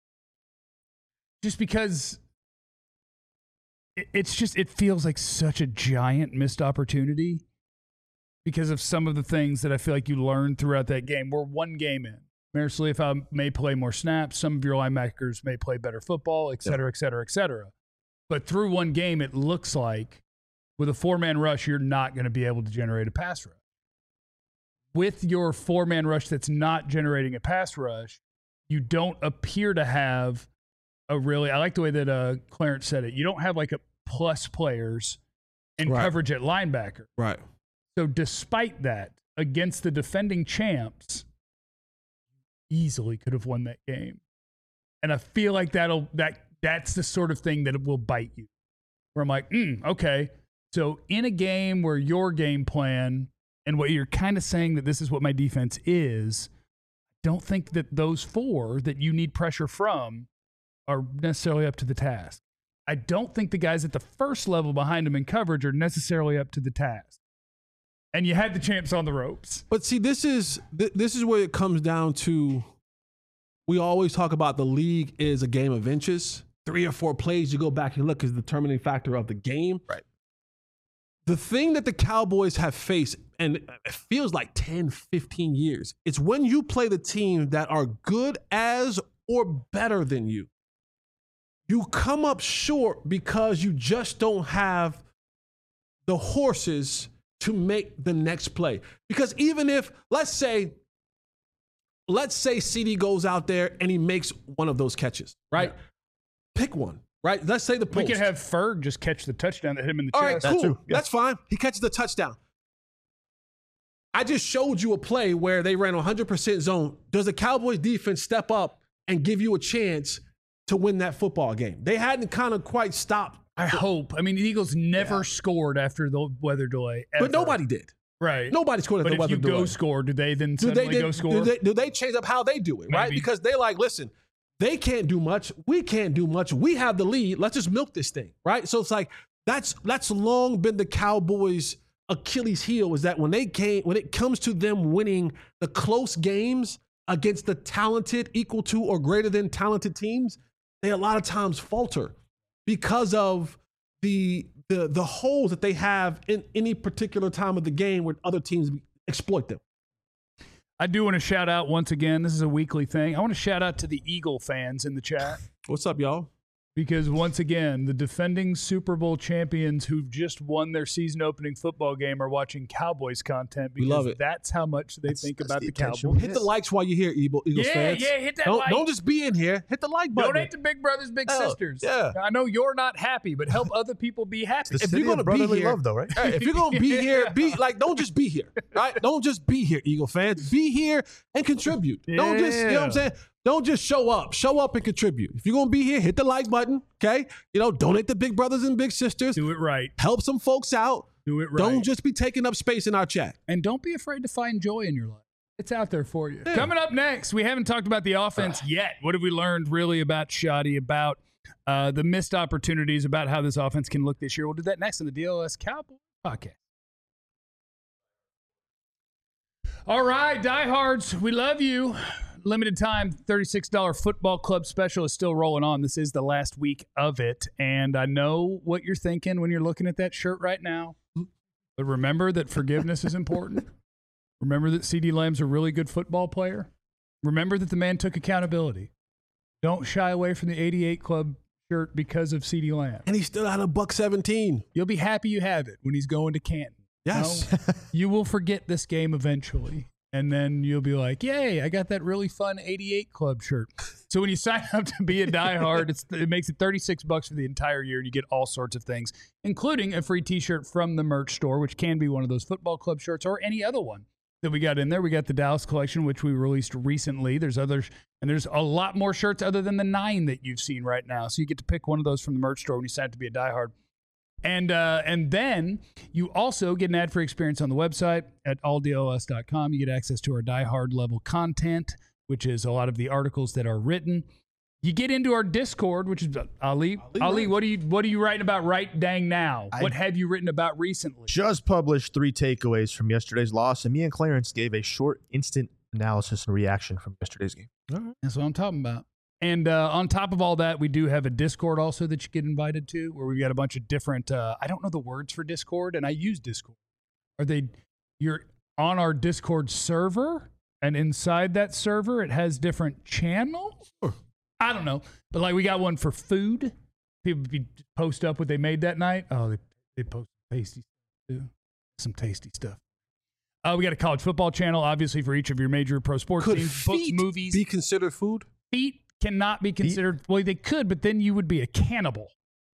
Just because it feels like such a giant missed opportunity because of some of the things that I feel like you learned throughout that game. We're one game in. Maris Leofau may play more snaps. Some of your linebackers may play better football, et cetera, et cetera, et cetera. But through one game, it looks like with a 4-man rush, you're not going to be able to generate a pass rush. With your 4-man rush that's not generating a pass rush, you don't appear to have a really, I like the way that Clarence said it, you don't have like a plus players in coverage at linebacker. Right. So despite that, against the defending champs, easily could have won that game. And I feel like that's the sort of thing that it will bite you. Where I'm like, okay. So in a game where your game plan and what you're kind of saying that this is what my defense is, I don't think that those 4 that you need pressure from are necessarily up to the task. I don't think the guys at the first level behind them in coverage are necessarily up to the task. And you had the champs on the ropes. But see, this is where it comes down to, we always talk about the league is a game of inches. 3 or 4 plays you go back and look is the determining factor of the game. Right. The thing that the Cowboys have faced, and it feels like 10, 15 years, it's when you play the team that are good as or better than you. You come up short because you just don't have the horses to make the next play. Because even if, let's say CD goes out there and he makes one of those catches, right? Yeah. Pick one, right? Let's say the post. We could have Ferg just catch the touchdown that hit him in the All chest. All right, cool. That's fine. He catches the touchdown. I just showed you a play where they ran 100% zone. Does the Cowboys defense step up and give you a chance to win that football game? They hadn't kind of quite stopped. I hope. I mean, the Eagles never scored after the weather delay. Ever. But nobody did. Right. Nobody scored after the weather delay. But if you go score, do they then suddenly go score? Do they change up how they do it, right? Because they like, listen, they can't do much. We can't do much. We have the lead. Let's just milk this thing, right? So it's like that's long been the Cowboys' Achilles heel, is that when it comes to them winning the close games against the talented, equal to or greater than talented teams, they a lot of times falter because of the holes that they have in any particular time of the game where other teams exploit them. I do want to shout out once again, this is a weekly thing. I want to shout out to the Eagle fans in the chat. What's up, y'all? Because once again, the defending Super Bowl champions who've just won their season opening football game are watching Cowboys content because we love it. That's how much they think about the Cowboys. Hit the likes while you're here, Eagles fans. Yeah, hit that like. Don't just be in here. Hit the like button. Donate to Big Brothers Big Sisters. Yeah. I know you're not happy, but help other people be happy. If you're going to be here, love, though, right? If you're going to be here, don't just be here, right? Don't just be here, Eagle fans. Be here and contribute. Yeah. Don't just, you know what I'm saying? Don't just show up. Show up and contribute. If you're going to be here, hit the like button, okay? Donate to Big Brothers and Big Sisters. Do it right. Help some folks out. Do it right. Don't just be taking up space in our chat. And don't be afraid to find joy in your life. It's out there for you. Yeah. Coming up next, we haven't talked about the offense yet. What have we learned really about Shoddy, about the missed opportunities, about how this offense can look this year? We'll do that next on the DLS Cowboy Podcast. All right, diehards, we love you. limited time $36 football club special is still rolling on. This is the last week of it. And I know what you're thinking when you're looking at that shirt right now. But remember that forgiveness is important. Remember that CeeDee Lamb's a really good football player. Remember that the man took accountability. Don't shy away from the 88 Club shirt because of CeeDee Lamb. And he's still out of $1.17. You'll be happy you have it when he's going to Canton. Yes. No, you will forget this game eventually. And then you'll be like, yay, I got that really fun 88 Club shirt. So when you sign up to be a diehard, it makes it $36 for the entire year, and you get all sorts of things, including a free T-shirt from the merch store, which can be one of those football club shirts or any other one that we got in there. We got the Dallas collection, which we released recently. There's others, and there's a lot more shirts other than the 9 that you've seen right now. So you get to pick one of those from the merch store when you sign up to be a diehard. And then you also get an ad-free experience on the website at alldls.com. You get access to our diehard level content, which is a lot of the articles that are written. You get into our Discord, which is Ali, what are you writing about right dang now? What have you written about recently? Just published 3 takeaways from yesterday's loss, and me and Clarence gave a short instant analysis and reaction from yesterday's game. All right. That's what I'm talking about. And on top of all that, we do have a Discord also that you get invited to, where we've got a bunch of different, I don't know the words for Discord, and I use Discord. You're on our Discord server, and inside that server, it has different channels? Sure. I don't know. But like we got one for food. People post up what they made that night. Oh, they post tasty stuff too. Some tasty stuff. We got a college football channel, obviously, for each of your major pro sports teams, books, movies. Be considered food? Feet cannot be considered. Well, they could, but then you would be a cannibal.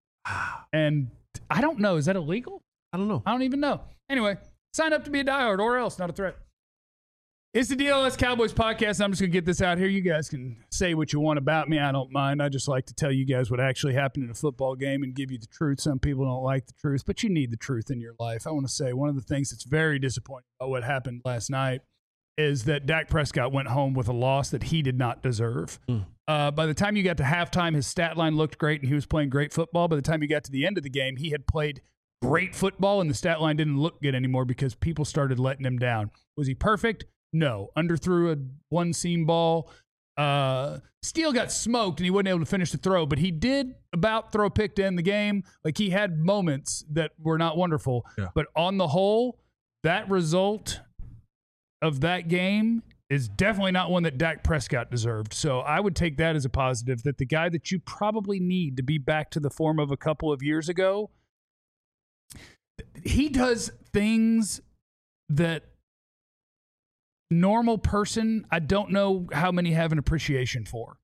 And I don't know. Is that illegal? I don't know. I don't even know. Anyway, sign up to be a diehard or else. Not a threat. It's the DLS Cowboys podcast. I'm just going to get this out here. You guys can say what you want about me. I don't mind. I just like to tell you guys what actually happened in a football game and give you the truth. Some people don't like the truth, but you need the truth in your life. I want to say one of the things that's very disappointing about what happened last night is that Dak Prescott went home with a loss that he did not deserve. By the time you got to halftime, his stat line looked great and he was playing great football. By the time you got to the end of the game, he had played great football and the stat line didn't look good anymore because people started letting him down. Was he perfect? No. Underthrew a one-seam ball. Steele got smoked and he wasn't able to finish the throw, but he did about throw a pick to end the game. Like he had moments that were not wonderful. Yeah. But on the whole, that result of that game is definitely not one that Dak Prescott deserved. So I would take that as a positive, that the guy that you probably need to be back to the form of a couple of years ago, he does things that normal person, I don't know how many have an appreciation for.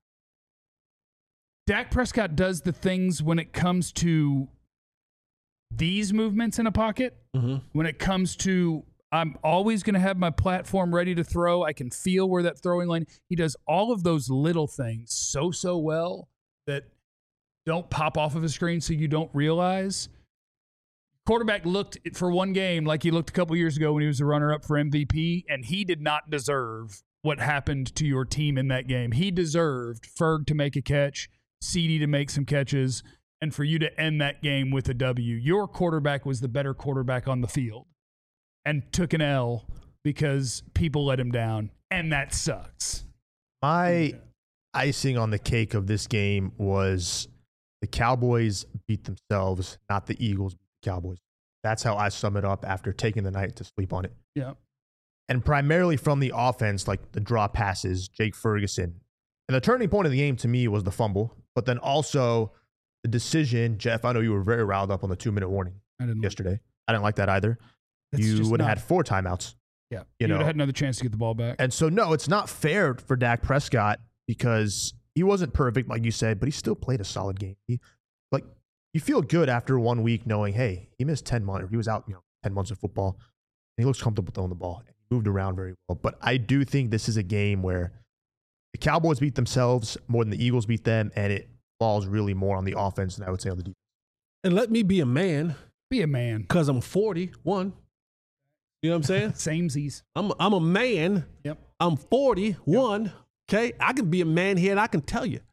Dak Prescott does the things when it comes to these movements in a pocket, when it comes to I'm always going to have my platform ready to throw. I can feel where that throwing line. He does all of those little things so well that don't pop off of a screen so you don't realize. Quarterback looked for one game like he looked a couple years ago when he was the runner-up for MVP, and he did not deserve what happened to your team in that game. He deserved Ferg to make a catch, CeeDee to make some catches, and for you to end that game with a W. Your quarterback was the better quarterback on the field and took an L because people let him down, and that sucks. My icing on the cake of this game was the Cowboys beat themselves, not the Eagles beat the Cowboys. That's how I sum it up after taking the night to sleep on it. Yeah. And primarily from the offense, like the draw passes, Jake Ferguson. And the turning point of the game to me was the fumble, but then also the decision. Jeff, I know you were very riled up on the 2-minute warning yesterday. I didn't like that either. You would have had 4 timeouts. Yeah. You would have had another chance to get the ball back. And so, no, it's not fair for Dak Prescott because he wasn't perfect, like you said, but he still played a solid game. You feel good after 1 week knowing, hey, he missed 10 months. He was out 10 months of football. And he looks comfortable throwing the ball. He moved around very well. But I do think this is a game where the Cowboys beat themselves more than the Eagles beat them, and it falls really more on the offense than I would say on the defense. And let me be a man. Be a man. Because I'm 41. You know what I'm saying? Samesies. I'm a man. Yep. I'm 41. Yep. Okay? I can be a man here, and I can tell you.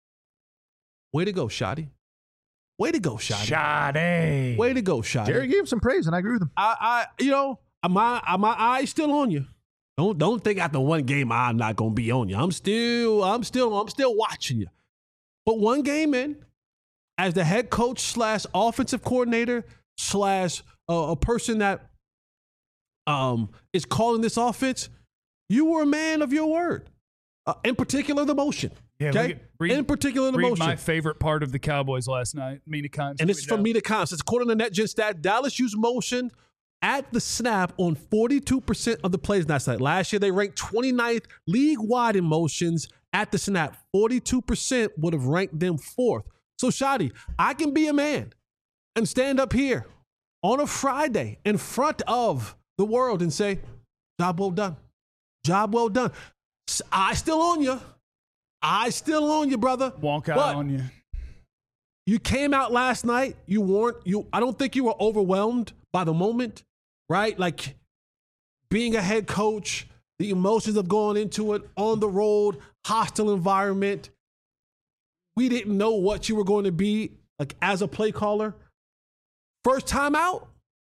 Way to go, Shotty. Way to go, Shotty. Shotty. Way to go, Shotty. Jerry gave him some praise, and I agree with him. My eye's still on you. Don't think after one game I'm not gonna be on you. I'm still watching you. But one game in, as the head coach / offensive coordinator / a person that is calling this offense, you were a man of your word. In particular, the motion. Yeah, okay. In particular, the motion. My favorite part of the Cowboys last night, Mina Kimes. And it's from Mina Kimes. It's according to NetGen stat. Dallas used motion at the snap on 42% of the plays last night. Last year, they ranked 29th league-wide in motions at the snap. 42% would have ranked them 4th. So, Shadi, I can be a man and stand up here on a Friday in front of the world and say, job well done. Job well done. I still on you. Brother. Wonk out on you. You came out last night. I don't think you were overwhelmed by the moment, right? Like being a head coach, the emotions of going into it, on the road, hostile environment. We didn't know what you were going to be like as a play caller. First time out.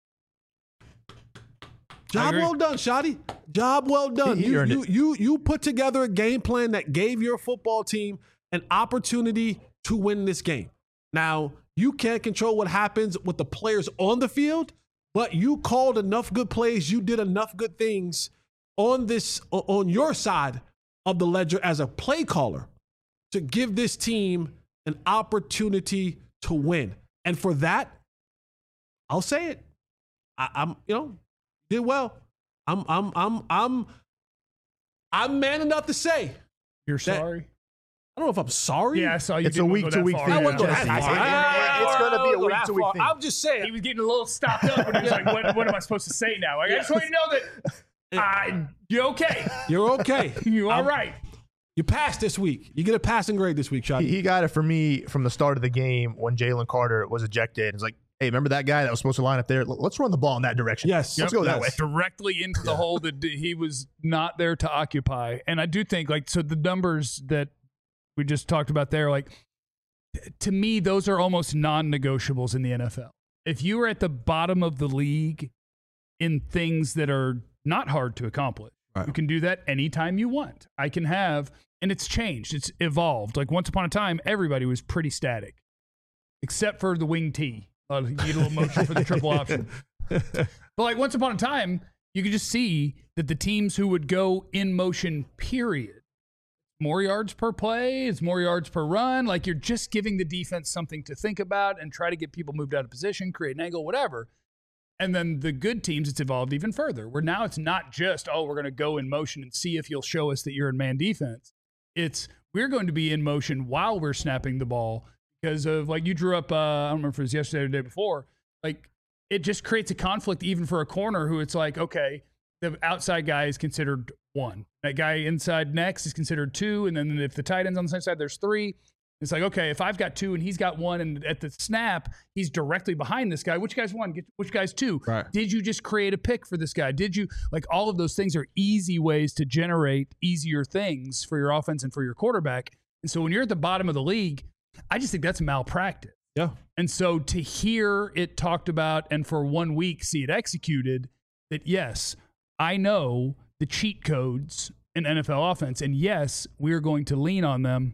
Job well done, Shadi. Job well done. You put together a game plan that gave your football team an opportunity to win this game. Now, you can't control what happens with the players on the field, but you called enough good plays. You did enough good things on your side of the ledger as a play caller to give this team an opportunity to win. And for that, I'll say it. I'm did well. I'm man enough to say you're sorry. I don't know if I'm sorry. Yeah, I saw you. It's a week-to-week thing. It's going to be a week-to-week thing. I'm just saying. He was getting a little stopped up, and he was like, "What am I supposed to say now?" Like, I just want you to know that you're okay. You're okay. You all right? You passed this week. You get a passing grade this week, Shadi. He got it for me from the start of the game when Jalen Carter was ejected. It's like, hey, remember that guy that was supposed to line up there? Let's run the ball in that direction. Yes. Let's go that way. Directly into the hole that he was not there to occupy. And I do think, so the numbers that we just talked about there, to me, those are almost non-negotiables in the NFL. If you are at the bottom of the league in things that are not hard to accomplish, you can do that anytime you want. I can have, and it's changed. It's evolved. Once upon a time, everybody was pretty static, except for the wing T. You need a little motion for the triple option. But once upon a time, you could just see that the teams who would go in motion, period, more yards per play, it's more yards per run. You're just giving the defense something to think about and try to get people moved out of position, create an angle, whatever. And then the good teams, it's evolved even further, where now it's not just, we're going to go in motion and see if you'll show us that you're in man defense. It's, we're going to be in motion while we're snapping the ball. Because of, you drew up, I don't remember if it was yesterday or the day before, it just creates a conflict even for a corner who it's okay, the outside guy is considered 1. That guy inside next is considered 2. And then if the tight end's on the same side, there's 3. It's okay, if I've got 2 and he's got 1, and at the snap, he's directly behind this guy. Which guy's 1? Which guy's 2? Right. Did you just create a pick for this guy? Did you, all of those things are easy ways to generate easier things for your offense and for your quarterback. And so when you're at the bottom of the league, I just think that's malpractice. Yeah. And so to hear it talked about and for 1 week see it executed, that yes, I know the cheat codes in NFL offense, and yes, we're going to lean on them.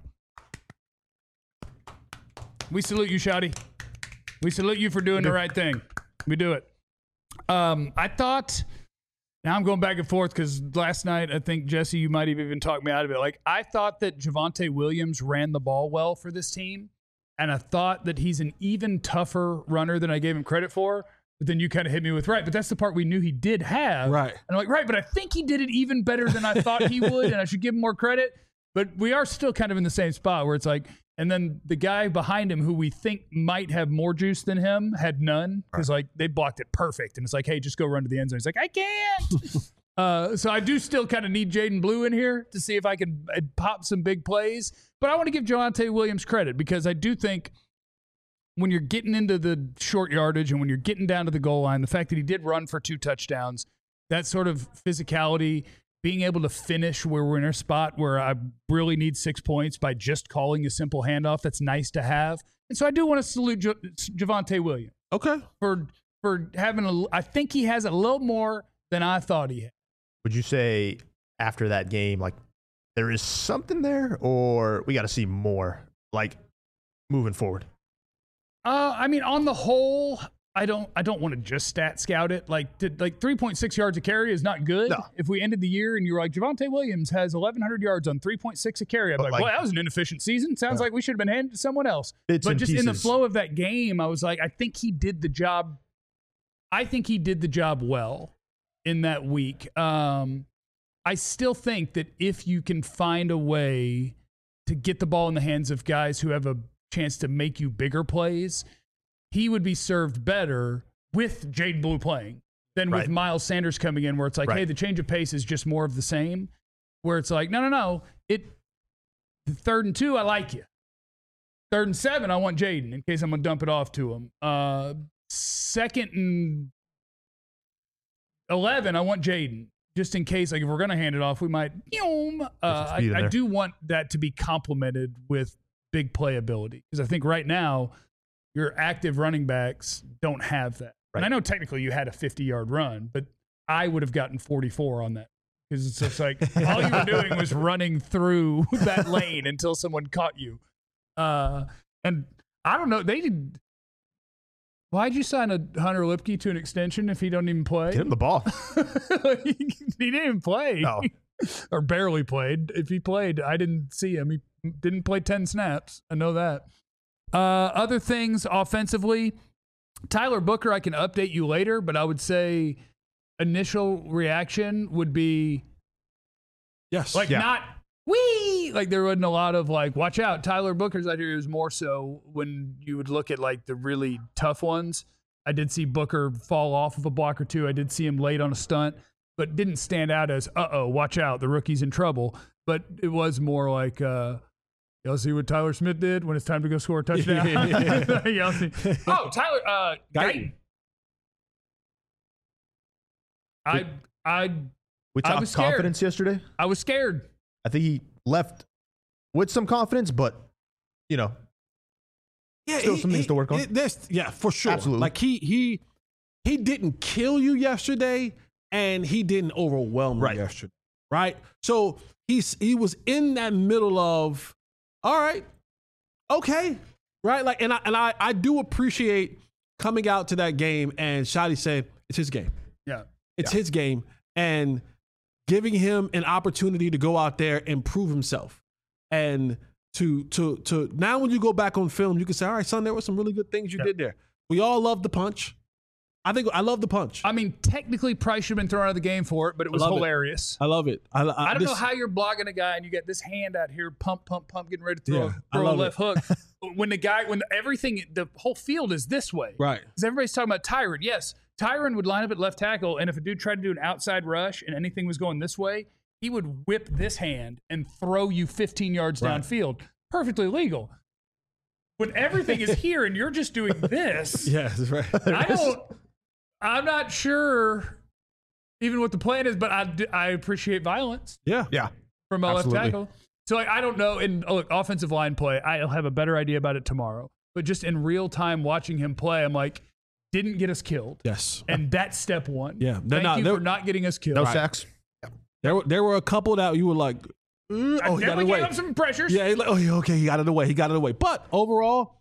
We salute you, Shadi. We salute you for doing the right thing. We do it. I thought, now I'm going back and forth because last night, I think, Jesse, you might have even talked me out of it. I thought that Javonte Williams ran the ball well for this team, and I thought that he's an even tougher runner than I gave him credit for. But then you kind of hit me with, right, but that's the part we knew he did have. Right. And I'm right, but I think he did it even better than I thought he would, and I should give him more credit. But we are still kind of in the same spot where it's and then the guy behind him who we think might have more juice than him had none because they blocked it perfect. And it's hey, just go run to the end zone. He's I can't. So I do still kind of need Jaden Blue in here to see if I can pop some big plays. But I want to give Javonte Williams credit because I do think when you're getting into the short yardage and when you're getting down to the goal line, the fact that he did run for 2 touchdowns, that sort of physicality, being able to finish where we're in a spot where I really need 6 points by just calling a simple handoff, that's nice to have. And so I do want to salute Javonte Williams. Okay. For having I think he has a little more than I thought he had. would you say after that game, like there is something there, or we got to see more, like moving forward? I mean, on the whole, I don't want to just stat scout it. Like 3.6 yards a carry is not good. No. If we ended the year and you were like, Javonte Williams has 1,100 yards on 3.6 a carry, I'd be like, well, that was an inefficient season. Sounds like we should have been handed to someone else. Bits But and just in the pieces. flow of that game, I was like, I think he did the job. I think he did the job well in that week. I still think that if you can find a way to get the ball in the hands of guys who have a chance to make you bigger plays, he would be served better with Jaden Blue playing than with Miles Sanders coming in, where it's like, hey, the change of pace is just more of the same. Where it's like, no. The 3rd and 2, I like you. 3rd and 7, I want Jaden in case I'm gonna dump it off to him. 2nd and 11, I want Jaden. Just in case, like if we're going to hand it off, we might. I do want that to be complemented with big playability, because I think right now your active running backs don't have that. And I know technically you had a 50-yard run, but I would have gotten 44 on that, because it's just like all you were doing was running through that lane until someone caught you. And I don't know, they did. Why'd you sign a Hunter Lipke to an extension if he don't even play? Get him the ball. He didn't even play. No. Or barely played. If he played, I didn't see him. He didn't play 10 snaps. I know that. Other things offensively, Tyler Booker, I can update you later, but I would say initial reaction would be Yes. not wee. Like there wasn't a lot of like, watch out, Tyler Booker's out here. It was more so when you would look at like the really tough ones. I did see Booker fall off of a block or two. I did see him late on a stunt, but didn't stand out as, watch out, the rookie's in trouble. But it was more like, y'all see what Tyler Smith did when it's time to go score a touchdown? Y'all see? Oh, Tyler, Guyton. We I talked was scared. confidence yesterday. I was scared. I think he left with some confidence, but still some things to work on. For sure. Absolutely. Like he didn't kill you yesterday, and he didn't overwhelm you yesterday, right? So he was in that middle of, all right, okay, right? Like, and I do appreciate coming out to that game and Shotty said it's his game. Yeah, it's his game, and giving him an opportunity to go out there and prove himself. And to now when you go back on film, you can say, all right, son, there were some really good things you did there. We all love the punch. I love the punch. I mean, technically Price should have been thrown out of the game for it, but it was hilarious. I love it. I don't know how you're blogging a guy and you get this hand out here, pump, getting ready to throw a left hook. When the whole field is this way. Right. Because everybody's talking about Tyron. Yes, Tyron would line up at left tackle, and if a dude tried to do an outside rush and anything was going this way, he would whip this hand and throw you 15 yards downfield. Perfectly legal. When everything is here and you're just doing this. Yeah, that's right. I'm not sure even what the plan is, but I appreciate violence. Yeah. From a left tackle. So I don't know. And look, offensive line play, I'll have a better idea about it tomorrow. But just in real time watching him play, I'm like, didn't get us killed. Yes. And that's step one. Yeah. Thank you for not getting us killed. No sacks. There were a couple that you were like, I he got it definitely away. gave him some pressures. Yeah, okay, he got it away. But overall,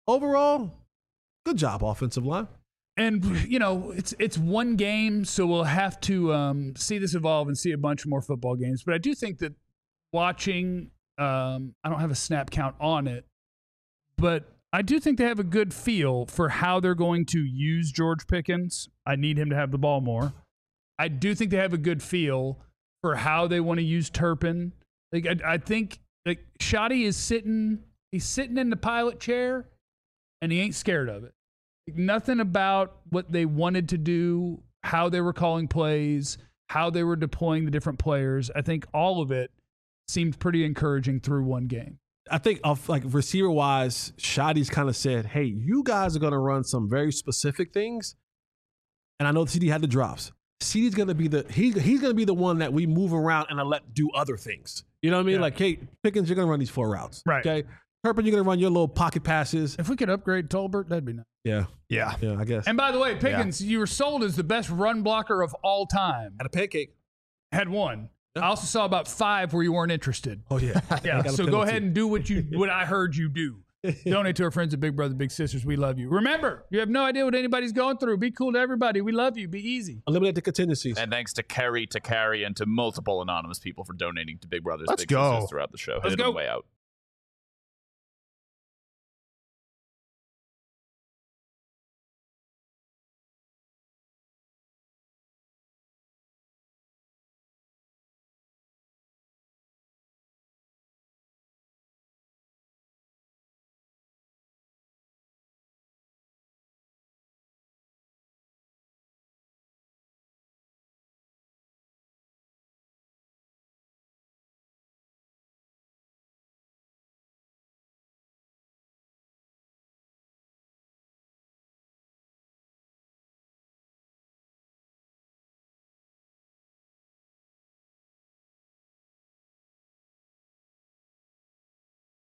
good job, offensive line. And, it's one game, so we'll have to see this evolve and see a bunch more football games. But I do think that watching, I don't have a snap count on it, but I do think they have a good feel for how they're going to use George Pickens. I need him to have the ball more. I do think they have a good feel for how they want to use Turpin. Like I think like Shotty is sitting in the pilot chair, and he ain't scared of it. Like, nothing about what they wanted to do, how they were calling plays, how they were deploying the different players. I think all of it seemed pretty encouraging through one game. I think receiver wise, Shotty's kind of said, hey, you guys are going to run some very specific things. And I know CD had the drops. CD's going to be he's going to be the one that we move around and let do other things. You know what I mean? Yeah. Like, hey, Pickens, you're going to run these 4 routes. Right. Okay. Turpin, you're going to run your little pocket passes. If we could upgrade Tolbert, that'd be nice. Yeah, I guess. And by the way, Pickens, you were sold as the best run blocker of all time. At a pancake. had one. I also saw about 5 where you weren't interested. Oh yeah. Yeah. Got a So go penalty. ahead and do what I heard you do. Donate to our friends at Big Brother Big Sisters. We love you. Remember, you have no idea what anybody's going through. Be cool to everybody. We love you. Be easy. Eliminate the contingencies. And thanks to Carrie, and to multiple anonymous people for donating to Big Brothers Let's Big go. Sisters throughout the show. Let's Hit it on go. the way out.